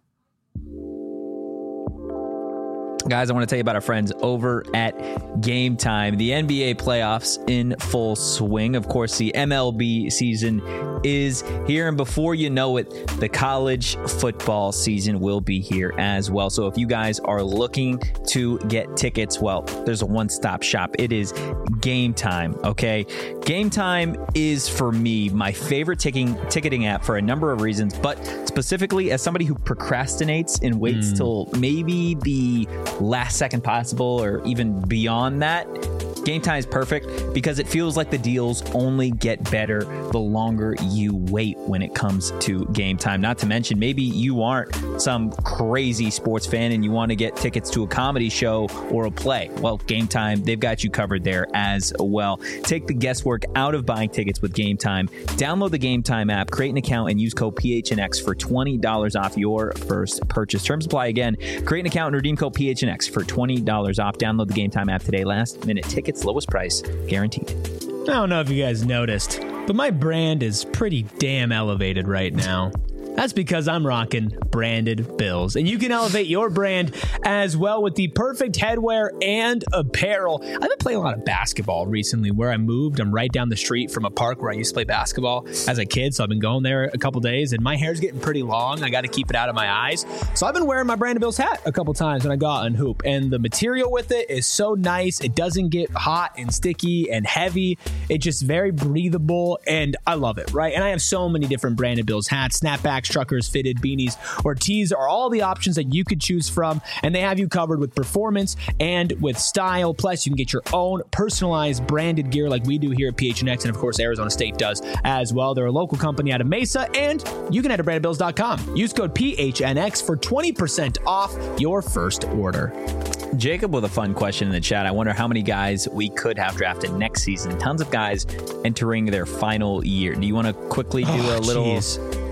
Guys, I want to tell you about our friends over at Game Time. The NBA playoffs in full swing. Of course, the MLB season is here, and before you know it, the college football season will be here as well. So if you guys are looking to get tickets, well, there's a one-stop shop. It is Game Time, okay? Game Time is, for me, my favorite ticketing app for a number of reasons, but specifically as somebody who procrastinates and waits till maybe the last second possible or even beyond that, Game Time is perfect because it feels like the deals only get better the longer you wait when it comes to Game Time. Not to mention, maybe you aren't some crazy sports fan and you want to get tickets to a comedy show or a play. Well, Game Time, they've got you covered there as well. Take the guesswork out of buying tickets with Game Time. Download the Game Time app, create an account, and use code PHNX for $20 off your first purchase. Terms apply again. Create an account and redeem code PHNX for $20 off. Download the Game Time app today. Last minute tickets, lowest price guaranteed. I don't know if you guys noticed, but my brand is pretty damn elevated right now. That's because I'm rocking branded Bills. And you can elevate your brand as well with the perfect headwear and apparel. I've been playing a lot of basketball recently. Where I moved, I'm right down the street from a park where I used to play basketball as a kid. So I've been going there a couple days, and my hair's getting pretty long. I got to keep it out of my eyes. So I've been wearing my Branded Bills hat a couple times when I go out and hoop. And the material with it is so nice. It doesn't get hot and sticky and heavy. It's just very breathable, and I love it, right? And I have so many different Branded Bills hats, snapbacks, truckers, fitted beanies, or tees are all the options that you could choose from, and they have you covered with performance and with style. Plus, you can get your own personalized branded gear like we do here at PHNX, and of course, Arizona State does as well. They're a local company out of Mesa, and you can head to brandedbills.com. Use code PHNX for 20% off your first order. Jacob with a fun question in the chat. I wonder how many guys we could have drafted next season. Tons of guys entering their final year. Do you want to quickly do a little...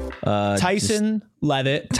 Tyson Leavitt.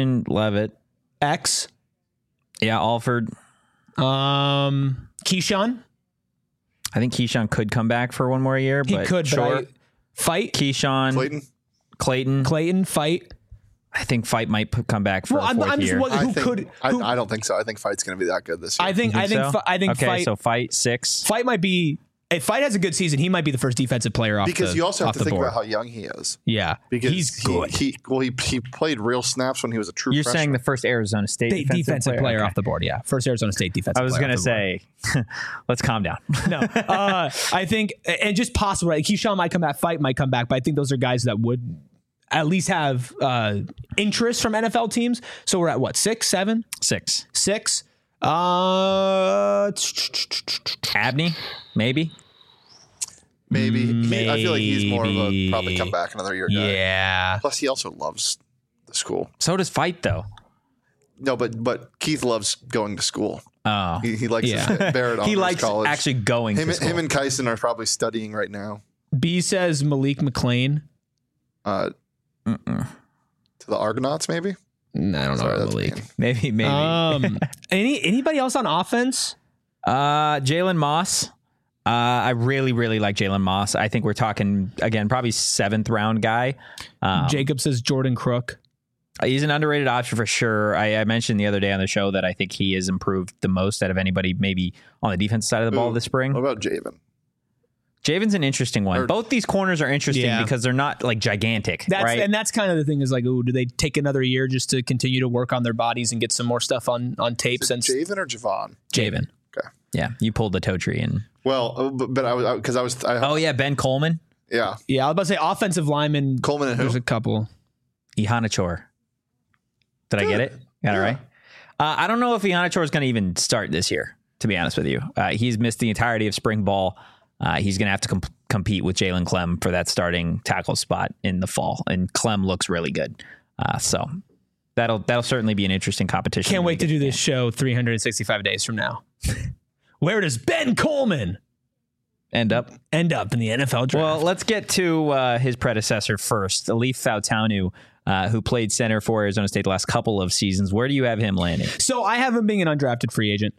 X. Yeah, Alford. Keyshawn. I think Keyshawn could come back for one more year. He but could, sure. but Fight. Keyshawn. Clayton. Fight. I think Fight might come back for a fourth year. I don't think so. I think Fight's going to be that good this year. I think okay, Fight. So Fight 6. Fight might be. If Fight has a good season, he might be the first defensive player off because you also have to think board. about how young he is. Yeah, because he's good. He played real snaps when he was a true. You're freshman. saying the first Arizona State defensive player off the board. Yeah, first Arizona State defensive. I was going to say, let's calm down. No, I think and just possible. Right? Keyshawn might come back. Fight might come back, but I think those are guys that would at least have interest from NFL teams. So we're at what, 6, 7? 6. Abney, maybe. Maybe. I feel like he's more of a probably come back another year guy. Yeah. Plus, he also loves the school. So does Fight, though. No, but Keith loves going to school. Oh, He likes Barrett he likes college. actually going. Him, to school. him and Kyson are probably studying right now. B says Malik McLean. To the Argonauts, maybe. I don't know Sorry, about that's Malik. mean. maybe. Anybody else on offense? Jalen Moss. I really, really like Jalen Moss. I think we're talking again, probably 7th round guy. Jacob says Jordan Crook. He's an underrated option for sure. I mentioned the other day on the show that I think he has improved the most out of anybody, maybe on the defensive side of the ball this spring. What about Javen? Javen's an interesting one. Both these corners are interesting because they're not like gigantic, right? And that's kind of the thing is like, do they take another year just to continue to work on their bodies and get some more stuff on tape? Since Javen or Javon? Javen. Okay. Yeah, you pulled the toe tree and. Well, but I was. Oh yeah, Ben Coleman. Yeah. Yeah, I was about to say offensive lineman. Coleman and who? There's a couple. Ihanachor. Did I get it? Got it right? I don't know if Ihanachor is going to even start this year, to be honest with you. He's missed the entirety of spring ball. He's going to have to compete with Jalen Clem for that starting tackle spot in the fall. And Clem looks really good. So that'll certainly be an interesting competition. Can't wait to do this show 365 days from now. Where does Ben Coleman end up in the NFL draft? Well, let's get to his predecessor first, Alif Fautanu, who played center for Arizona State the last couple of seasons. Where do you have him landing? So I have him being an undrafted free agent.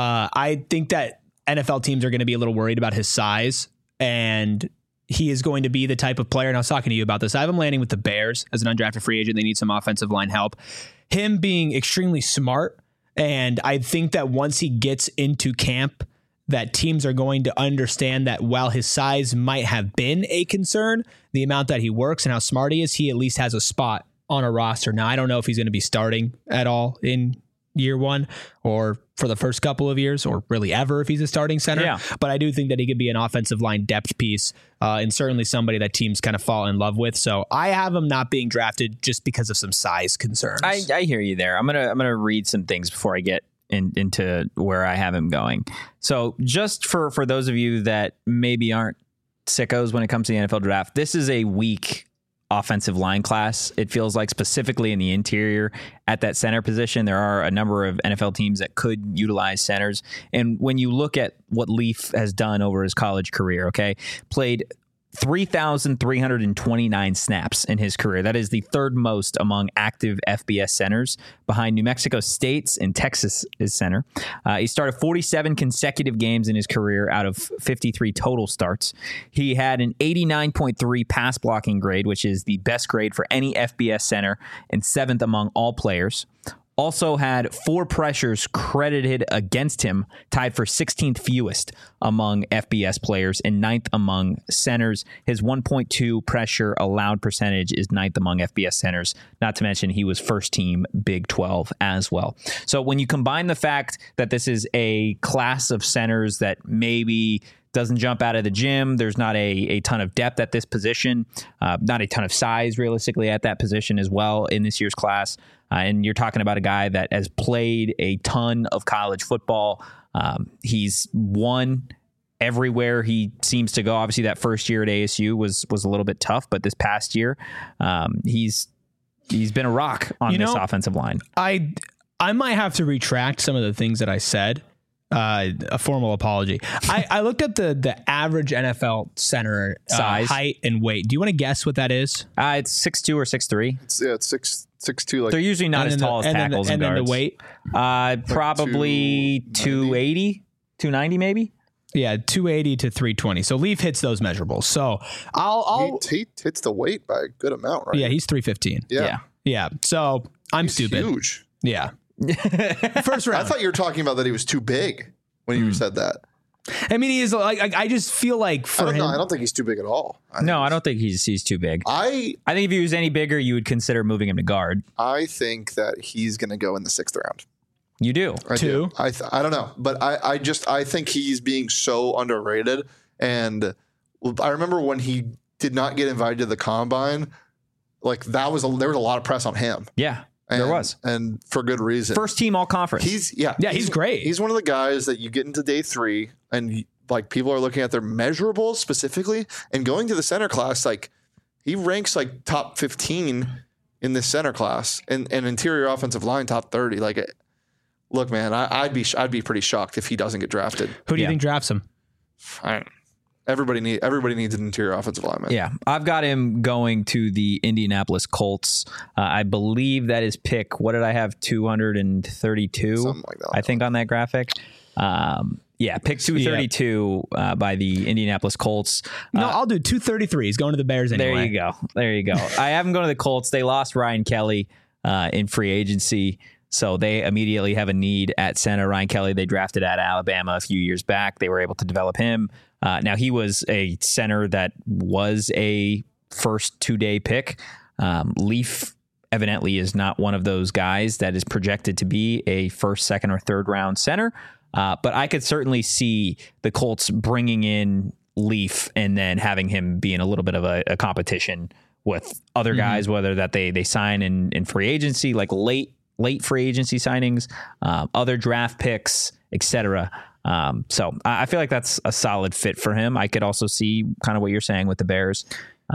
I think that NFL teams are going to be a little worried about his size, and he is going to be the type of player, and I was talking to you about this, I have him landing with the Bears as an undrafted free agent. They need some offensive line help. Him being extremely smart, and I think that once he gets into camp, that teams are going to understand that while his size might have been a concern, the amount that he works and how smart he is, he at least has a spot on a roster. Now, I don't know if he's going to be starting at all in year one or for the first couple of years or really ever if he's a starting center. Yeah. But I do think that he could be an offensive line depth piece and certainly somebody that teams kind of fall in love with. So I have him not being drafted just because of some size concerns. I hear you there. I'm gonna read some things before I get into where I have him going. So just for those of you that maybe aren't sickos when it comes to the NFL draft, this is a weak offensive line class. It feels like specifically in the interior at that center position, there are a number of NFL teams that could utilize centers. And when you look at what Leaf has done over his college career, played 3,329 snaps in his career. That is the third most among active FBS centers, behind New Mexico State's and Texas' center. He started 47 consecutive games in his career out of 53 total starts. He had an 89.3 pass blocking grade, which is the best grade for any FBS center and 7th among all players. Also had 4 pressures credited against him, tied for 16th fewest among FBS players and 9th among centers. His 1.2 pressure allowed percentage is 9th among FBS centers, not to mention he was first team Big 12 as well. So when you combine the fact that this is a class of centers that maybe doesn't jump out of the gym, there's not a ton of depth at this position, not a ton of size realistically at that position as well in this year's class. And you're talking about a guy that has played a ton of college football. He's won everywhere he seems to go. Obviously, that first year at ASU was a little bit tough, but this past year, he's been a rock on this offensive line. I might have to retract some of the things that I said. A formal apology. I looked up the average NFL center size, height, and weight. Do you want to guess what that is? It's 6'2" or 6'3". It's 6'2". Like, they're usually not as tall as tackles and guards. And then the weight? Probably 280, 290 maybe. Yeah, 280 to 320. So Leaf hits those measurables. So he hits the weight by a good amount, right? Yeah, he's 315. Yeah. So he's stupid. Huge. Yeah. First round. I thought you were talking about that he was too big when you said that. I mean, he is like, I just feel like for him. I don't think he's too big at all. I don't think he's too big. I think if he was any bigger, you would consider moving him to guard. I think that he's going to go in the 6th round. You do? I do. I don't know, but I think he's being so underrated. And I remember when he did not get invited to the combine, like there was a lot of press on him. Yeah. And, was. and for good reason. First team all conference. He's great. He's one of the guys that you get into day 3 and like people are looking at their measurables specifically and going to the center class. Like he ranks like top 15 in this center class and interior offensive line top 30. Like, look, man, I'd be pretty shocked if he doesn't get drafted. Who do you think drafts him? Everybody needs an interior offensive lineman. Yeah, I've got him going to the Indianapolis Colts. I believe that is pick. What did I have? 232. Something like that. I think on that graphic. Pick 232 by the Indianapolis Colts. No, I'll do 233. He's going to the Bears anyway. There you go. I have him going to the Colts. They lost Ryan Kelly in free agency. So they immediately have a need at center. Ryan Kelly, they drafted at Alabama a few years back. They were able to develop him. Now, he was a center that was a first 2-day pick. Leaf evidently is not one of those guys that is projected to be a first, second, or third round center. But I could certainly see the Colts bringing in Leaf and then having him be in a little bit of a competition with other guys, whether that they sign in free agency, like late free agency signings, other draft picks, etc. So I feel like that's a solid fit for him. I could also see kind of what you're saying with the Bears.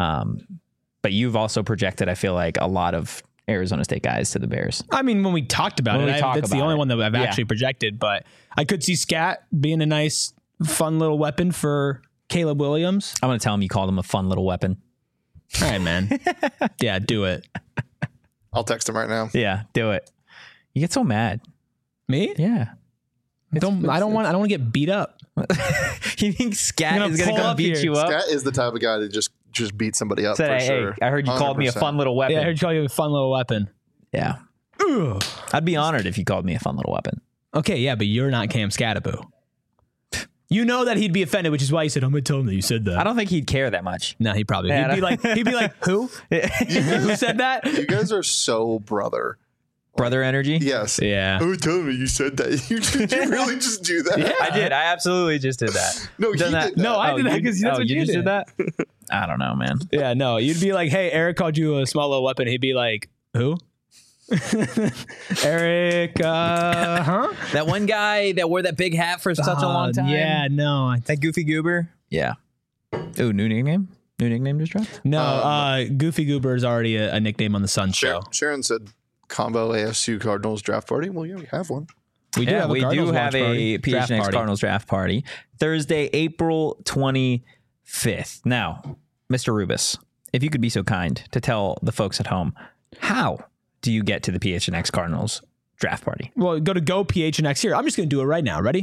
But you've also projected, I feel like, a lot of Arizona State guys to the Bears. I mean, when we talked about that's the only one that I've actually projected, but I could see Scat being a nice, fun little weapon for Caleb Williams. I'm going to tell him you called him a fun little weapon. All right, man. Yeah, do it. I'll text him right now. Yeah, do it. You get so mad. Me? Yeah. I don't want to get beat up. You think Scat is going to come beat you up? Scat is the type of guy that just beat somebody up. Said, for sure. I heard you 100%. Called me a fun little weapon. Yeah, I heard you call you a fun little weapon. Yeah. Ugh. I'd be honored if you called me a fun little weapon. Okay, yeah, but you're not Cam Scatterbo. You know that he'd be offended, which is why he said, I'm going to tell him that you said that. I don't think he'd care that much. No, he'd probably. He'd be like, who? Who said that? You guys are so brother energy? Yes. Yeah. Oh, tell me you said that. Did you really just do that? Yeah. I did. I absolutely just did that. No, he did that. No, I did that because that's what you just did that? I don't know, man. Yeah, no. You'd be like, hey, Eric called you a small little weapon. He'd be like, who? Eric, That one guy that wore that big hat for such a long time? Yeah, no. That Goofy Goober? Yeah. Ooh, new nickname? New nickname just dropped? No, Goofy Goober is already a nickname on the Sun show. Sharon said combo ASU Cardinals draft party. Well, yeah, we have one. We do have a PHNX Cardinals draft party. Thursday, April 25th. Now, Mr. Rubis, if you could be so kind to tell the folks at home, how do you get to the PHNX Cardinals draft party? Well, go to GoPHNX here. I'm just going to do it right now. Ready?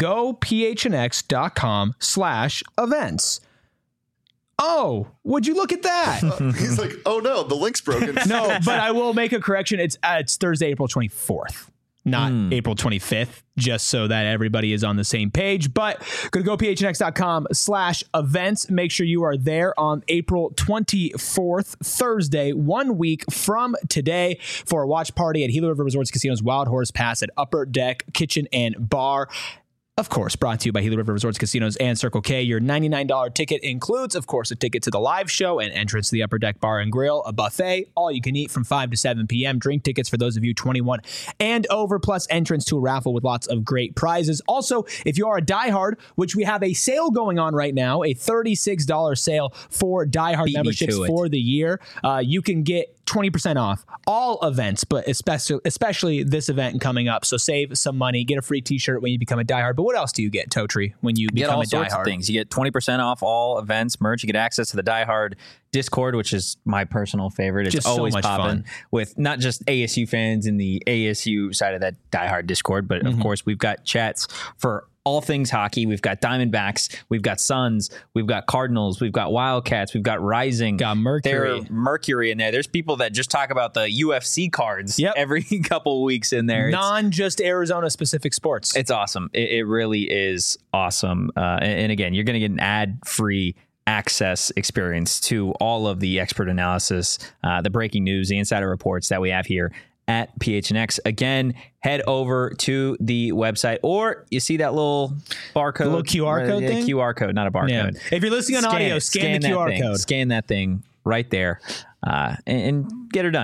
GoPHNX.com/events. Oh, would you look at that? He's like, oh no, the link's broken. No, but I will make a correction. It's Thursday, April 24th. Not April 25th, just so that everybody is on the same page. But go to gophnx.com/events. Make sure you are there on April 24th, Thursday, 1 week from today, for a watch party at Gila River Resorts Casino's Wild Horse Pass at Upper Deck Kitchen and Bar. Of course, brought to you by Gila River Resorts Casinos and Circle K. Your $99 ticket includes, of course, a ticket to the live show and entrance to the Upper Deck Bar and Grill, a buffet, all you can eat from 5 to 7 p.m., drink tickets for those of you 21 and over, plus entrance to a raffle with lots of great prizes. Also, if you are a diehard, which we have a sale going on right now, a $36 sale for diehard memberships for the year, you can get 20% off all events, but especially this event coming up. So save some money, get a free t-shirt when you become a diehard. But what else do you get, Totri, when you become a diehard? You get all sorts of things. You get 20% off all events, merch. You get access to the diehard Discord, which is my personal favorite. It's just always so popping with not just ASU fans in the ASU side of that diehard Discord, but of course we've got chats for all things hockey. We've got Diamondbacks, we've got Suns, we've got Cardinals, we've got Wildcats, we've got Rising, got Mercury. There's Mercury in there. There's people that just talk about the UFC cards every couple weeks in there. Just Arizona specific sports. It's awesome. It really is awesome. And again, you're going to get an ad-free access experience to all of the expert analysis, the breaking news, the insider reports that we have here at PHNX. Again, head over to the website, or you see that little barcode, the little QR code thing? QR code, not a barcode. Yeah. If you're listening on audio, scan the QR code. Scan that thing right there and get her done.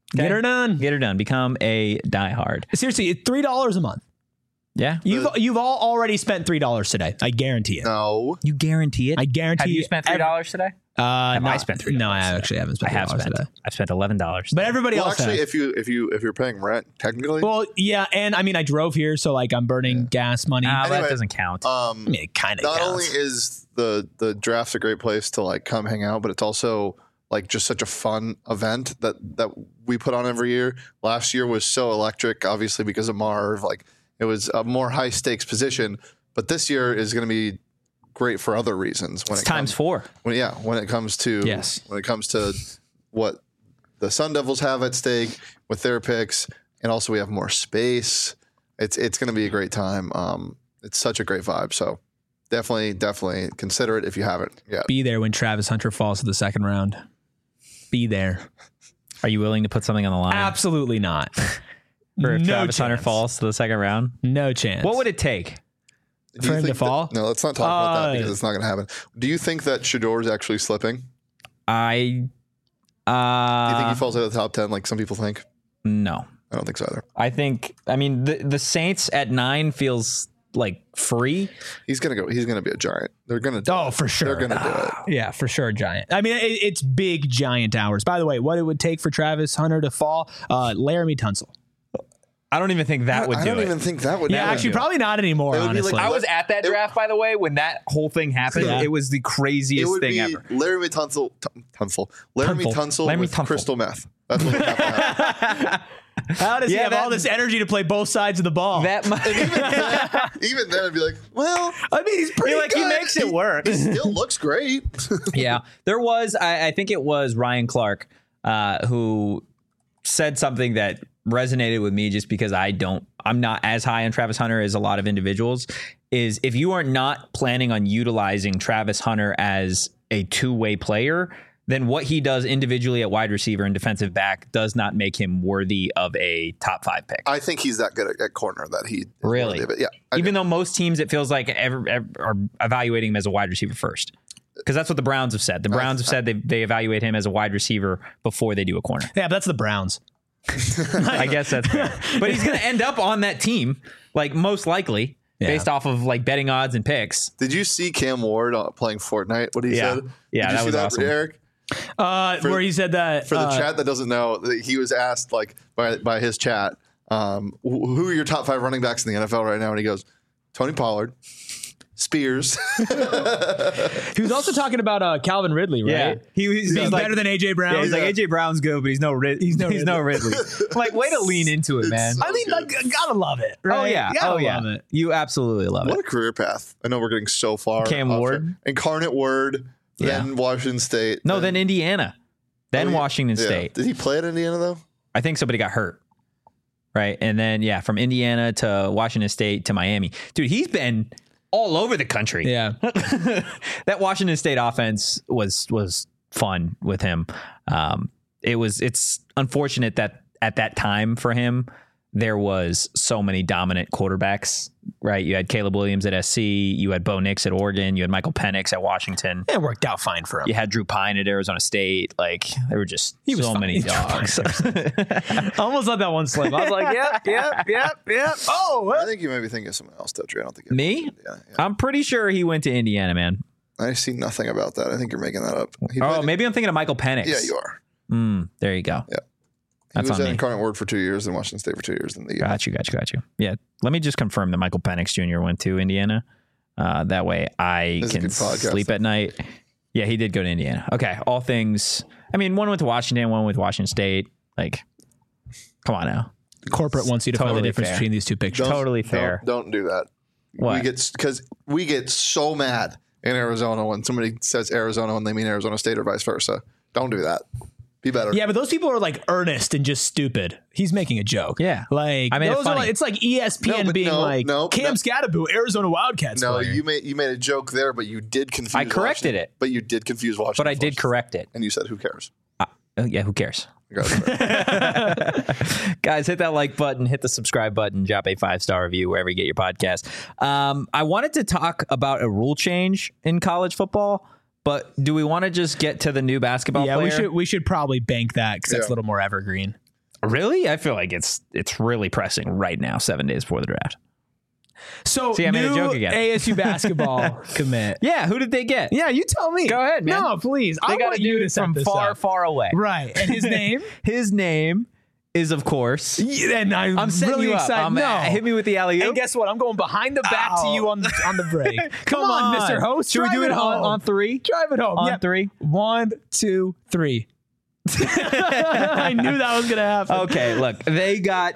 Get her done. Get her done. Become a diehard. Seriously, it's $3 a month. Yeah. You've all already spent $3 today. I guarantee it. No. You guarantee it? I guarantee. Have you spent $3 today? Have I spent $3? No, I actually haven't spent. I have $3 spent. today. I've spent $11. But everybody Well, else actually, has. if you're paying rent, technically, Well, yeah, and I mean, I drove here, so like I'm burning gas money. That Anyway, doesn't count. I mean, it kind of not counts. only is the draft's a great place to like come hang out, but it's also like just such a fun event that we put on every year. Last year was so electric, obviously because of Marv. Like it was a more high stakes position, but this year is going to be great for other reasons. When It's times 4. when it comes to Yes. when it comes to what the Sun Devils have at stake with their picks, and also we have more space. It's going to be a great time. It's such a great vibe. So definitely consider it if you haven't yet. Be there when Travis Hunter falls to the second round. Be there. Are you willing to put something on the line Absolutely not. for if no Travis Hunter chance. falls to the second round? No chance. What would it take? Do for you him to think fall? No, let's not talk about that because it's not going to happen. Do you think that Shador's actually slipping? Do I you think he falls out of the top 10 like some people think? no. I don't think so either. I mean the Saints at 9 feels like free. He's going to go. He's going to be a giant. They're going to do Oh, it. for sure. They're going to do it. Yeah, for sure, giant. I mean, it's big, giant hours. By the way, what it would take for Travis Hunter to fall, Laramie Tunsil. I don't even think that would I do don't it. even think that would. Yeah, do actually, it. probably not anymore, It would be honestly. like- I was at that draft, by the way, when that whole thing happened. Yeah. It was the It craziest would thing be ever. Laramie Tunsil. Laramie Tunsil Laramie with Tunsil. crystal meth. That's what would have to happen. How does he Yeah, have that- all this energy to play both sides of the ball? That might, Even then, I'd be like, well, I mean, he's pretty like he good. makes it work. he still looks great. Yeah, there was. I think it was Ryan Clark who said something that resonated with me, just because I'm not as high on Travis Hunter as a lot of individuals. Is if you are not planning on utilizing Travis Hunter as a two-way player, then what he does individually at wide receiver and defensive back does not make him worthy of a top 5 pick. I think he's that good at corner that he is Really? worthy of it. Yeah, I Even do. though most teams, it feels like are evaluating him as a wide receiver first. Because that's what the Browns have said. The Browns have said they evaluate him as a wide receiver before they do a corner. Yeah, but that's the Browns. I guess that's fair. But he's going to end up on that team, like most likely, Yeah. based off of like betting odds and picks. Did you see Cam Ward playing Fortnite? What he Yeah. said? Yeah, Did you that see was awesome. Eric? Where he said that For the chat that doesn't know, that he was asked like by his chat, who are your top 5 running backs in the NFL right now? And he goes, Tony Pollard, Spears. he was also talking about Calvin Ridley, right? he's Being like, better than AJ Brown. yeah, he's like AJ Brown's good, but he's no Ridley. Like, way to lean into it, man. I mean, like, gotta love it, right? Oh yeah, Gotta love it. You absolutely love What it. a career path. I know we're getting so far. Cam off Ward. it. Incarnate Word, then Washington State. No, then Indiana, then Oh, yeah. Washington Yeah. State. Did he play at Indiana though? I think somebody got hurt. Right. And then, from Indiana to Washington State to Miami. Dude, he's been all over the country. Yeah. That Washington State offense was fun with him. It's unfortunate that at that time for him, there was so many dominant quarterbacks, right? You had Caleb Williams at SC, you had Bo Nix at Oregon, you had Michael Penix at Washington. It worked out fine for him. You had Drew Pine at Arizona State. Like, there were just was so fine. many He was dogs. I almost let that one slip. I was like, yep. Oh, I think you may be thinking of someone else, Dutry. I don't think Me? Yeah. I'm pretty sure he went to Indiana, man. I see nothing about that. I think you're making that up. He Oh, played- maybe I'm thinking of Michael Penix. Yeah, you are. There you go. Yeah. He That's was on at me. Incarnate Word for 2 years and Washington State for 2 years. In the Got you. Yeah. Let me just confirm that Michael Penix Jr. went to Indiana. That way I This is a can good podcast, sleep at night. Yeah, he did go to Indiana. Okay. All things. I mean, one went to Washington, one went to Washington State. Like, come on now. corporate wants you to find the Totally difference fair. between these two pictures. Totally fair. Don't do that. What? Because we get so mad in Arizona when somebody says Arizona when they mean Arizona State or vice versa. Don't do that. Be better. Yeah, but those people are like earnest and just stupid. He's making a joke. Yeah. Like I made it those are funny. like, it's like ESPN No, but being no, like no, Cam no. Scatterbo, Arizona Wildcats. No, player. you made a joke there, but you did confuse. I corrected Washington. it. But you did confuse Washington. But I did first. correct it. And you said, "Who cares?" Yeah, who cares? You got it. Guys, hit that like button, hit the subscribe button, drop a 5-star review wherever you get your podcast. I wanted to talk about a rule change in college football, but do we want to just get to the new basketball Yeah, player? we should probably bank that because that's Yeah. a little more evergreen. Really? I feel like it's really pressing right now, 7 days before the draft. So See, I made a joke again. ASU basketball commit. Yeah, who did they get? Yeah, you tell me. Go ahead, man. No, please. They I got want a you to dude set from this far, up. far away. Right. And his name? His name is, of course. And I'm setting really you up. excited. No. Hit me with the alley-oop. And guess what? I'm going behind the back to Ow. you on the break. Come on, Mr. Host. Should we do drive it home. on 3? Drive it home. On Yeah. 3? 1, 2, 3. I knew that was going to happen. Okay, look, they got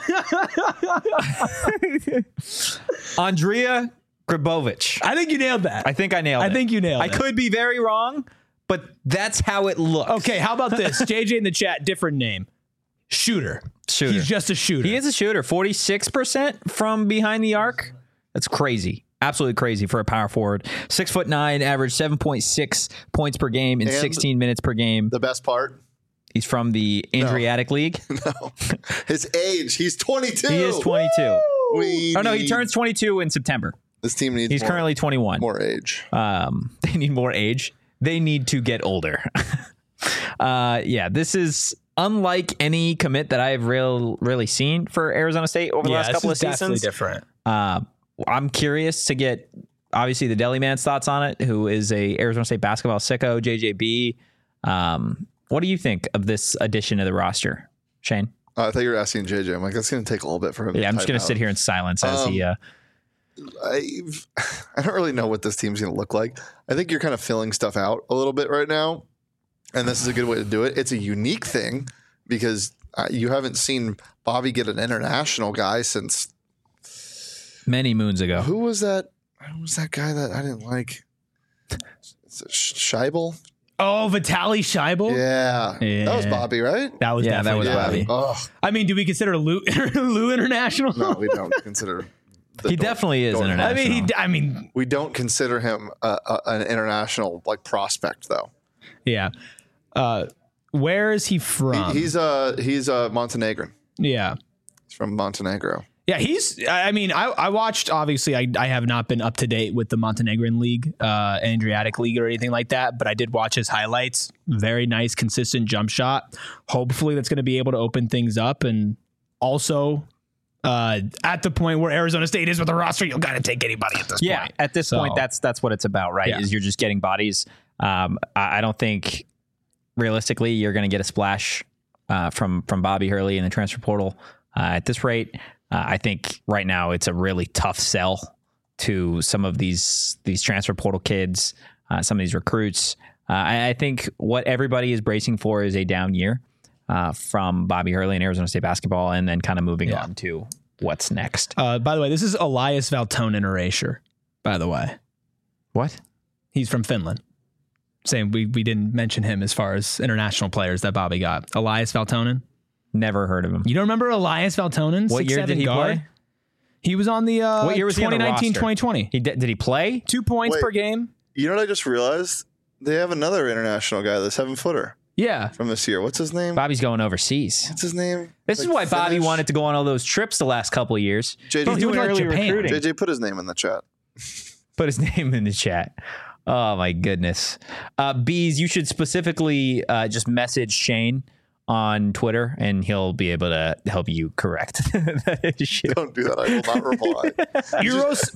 Andrea Grabovich. I think you nailed that. I think I nailed it. I think you nailed I it. could be very wrong, but that's how it looks. Okay, how about this? JJ in the chat, different name. Shooter. Shooter. He's just a shooter. He is a shooter. 46% from behind the arc. That's crazy. Absolutely crazy for a power forward. 6'9", average 7.6 points per game in And 16 minutes per game. The best part? He's from the Adriatic League. No. His age. He's 22. He is 22. He He turns 22 in September. This team needs He's currently 21. more age. They need more age. They need to get older. Yeah, this is unlike any commit that I've really seen for Arizona State over the last couple of seasons. Different. I'm curious to get obviously the Deli Man's thoughts on it, who is a Arizona State basketball sicko, JJB. What do you think of this addition to the roster, Shane? I thought you were asking JJ. I'm like, that's going to take a little bit for him. Yeah, I'm just going to sit here in silence as he. I don't really know what this team's going to look like. I think you're kind of filling stuff out a little bit right now, and this is a good way to do it. It's a unique thing because you haven't seen Bobby get an international guy since many moons ago. who was that? Who was that guy that I didn't like? Scheibel? Oh, Vitaly Scheibel? Yeah. That was Bobby, right? That was Yeah, that definitely was Bobby. Oh, I mean, do we consider Lou International? no, we don't consider. He definitely is Don't- international. I mean, We don't consider him an international prospect, though. yeah. Where is he from? He's Montenegrin. yeah. He's from Montenegro. Yeah, I watched, obviously, I have not been up to date with the Montenegrin League, Adriatic League or anything like that, but I did watch his highlights. Very nice, consistent jump shot. Hopefully that's going to be able to open things up. And also, at the point where Arizona State is with the roster, you'll kind of take anybody at this point. At this point, that's what it's about, right? Yeah. Is you're just getting bodies. I don't think realistically you're going to get a splash from Bobby Hurley in the transfer portal at this rate. I think right now it's a really tough sell to some of these transfer portal kids, some of these recruits. I think what everybody is bracing for is a down year from Bobby Hurley and Arizona State basketball, and then kind of moving on to what's next. By the way, this is Elias Valtonen erasure, by the way. What? He's from Finland. Saying we didn't mention him as far as international players that Bobby got. Elias Valtonen. Never heard of him. You don't remember Elias Valtonen? What year did he guard? play? He was on the What year was he on the 2019, roster? 2020. Did he play? 2 points Wait. per game. You know what I just realized? They have another international guy, the 7-footer Yeah. from this year. What's his name? Bobby's going overseas. What's his name? This is Like why Bobby Finnish? wanted to go on all those trips the last couple of years. JJ, He's doing went to early Japan. recruiting. JJ put his name in the chat. Put his name in the chat. Oh my goodness. Bees, you should specifically just message Shane on Twitter and he'll be able to help you correct that issue. Don't do that. I will not reply. Eros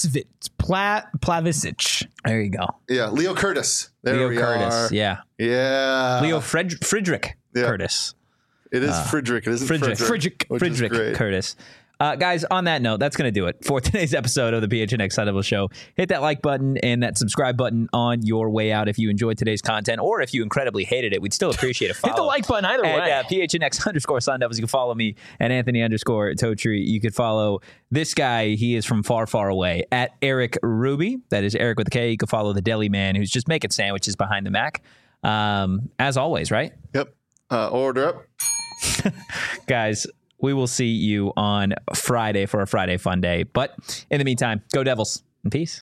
Plavisic. There you go. Yeah, Leo Curtis. There Leo we Curtis. are. Yeah. Yeah. Leo Friedrich Yeah. Curtis. It is Friedrich. It isn't Frederick. Friedrich. Which is great. Curtis. Guys, on that note, that's going to do it for today's episode of the PHNX Sun Devil Show. Hit that like button and that subscribe button on your way out if you enjoyed today's content, or if you incredibly hated it, we'd still appreciate a follow. Hit the like button either way. At PHNX_Sun Devils. You can follow me at Anthony_Totri. You could follow this guy. He is from far, far away at Eric Ruby. That is Eric with a K. You can follow the Deli Man who's just making sandwiches behind the Mac. As always, right? Yep. Order up. Guys, we will see you on Friday for a Friday Fun Day. But in the meantime, go Devils and peace.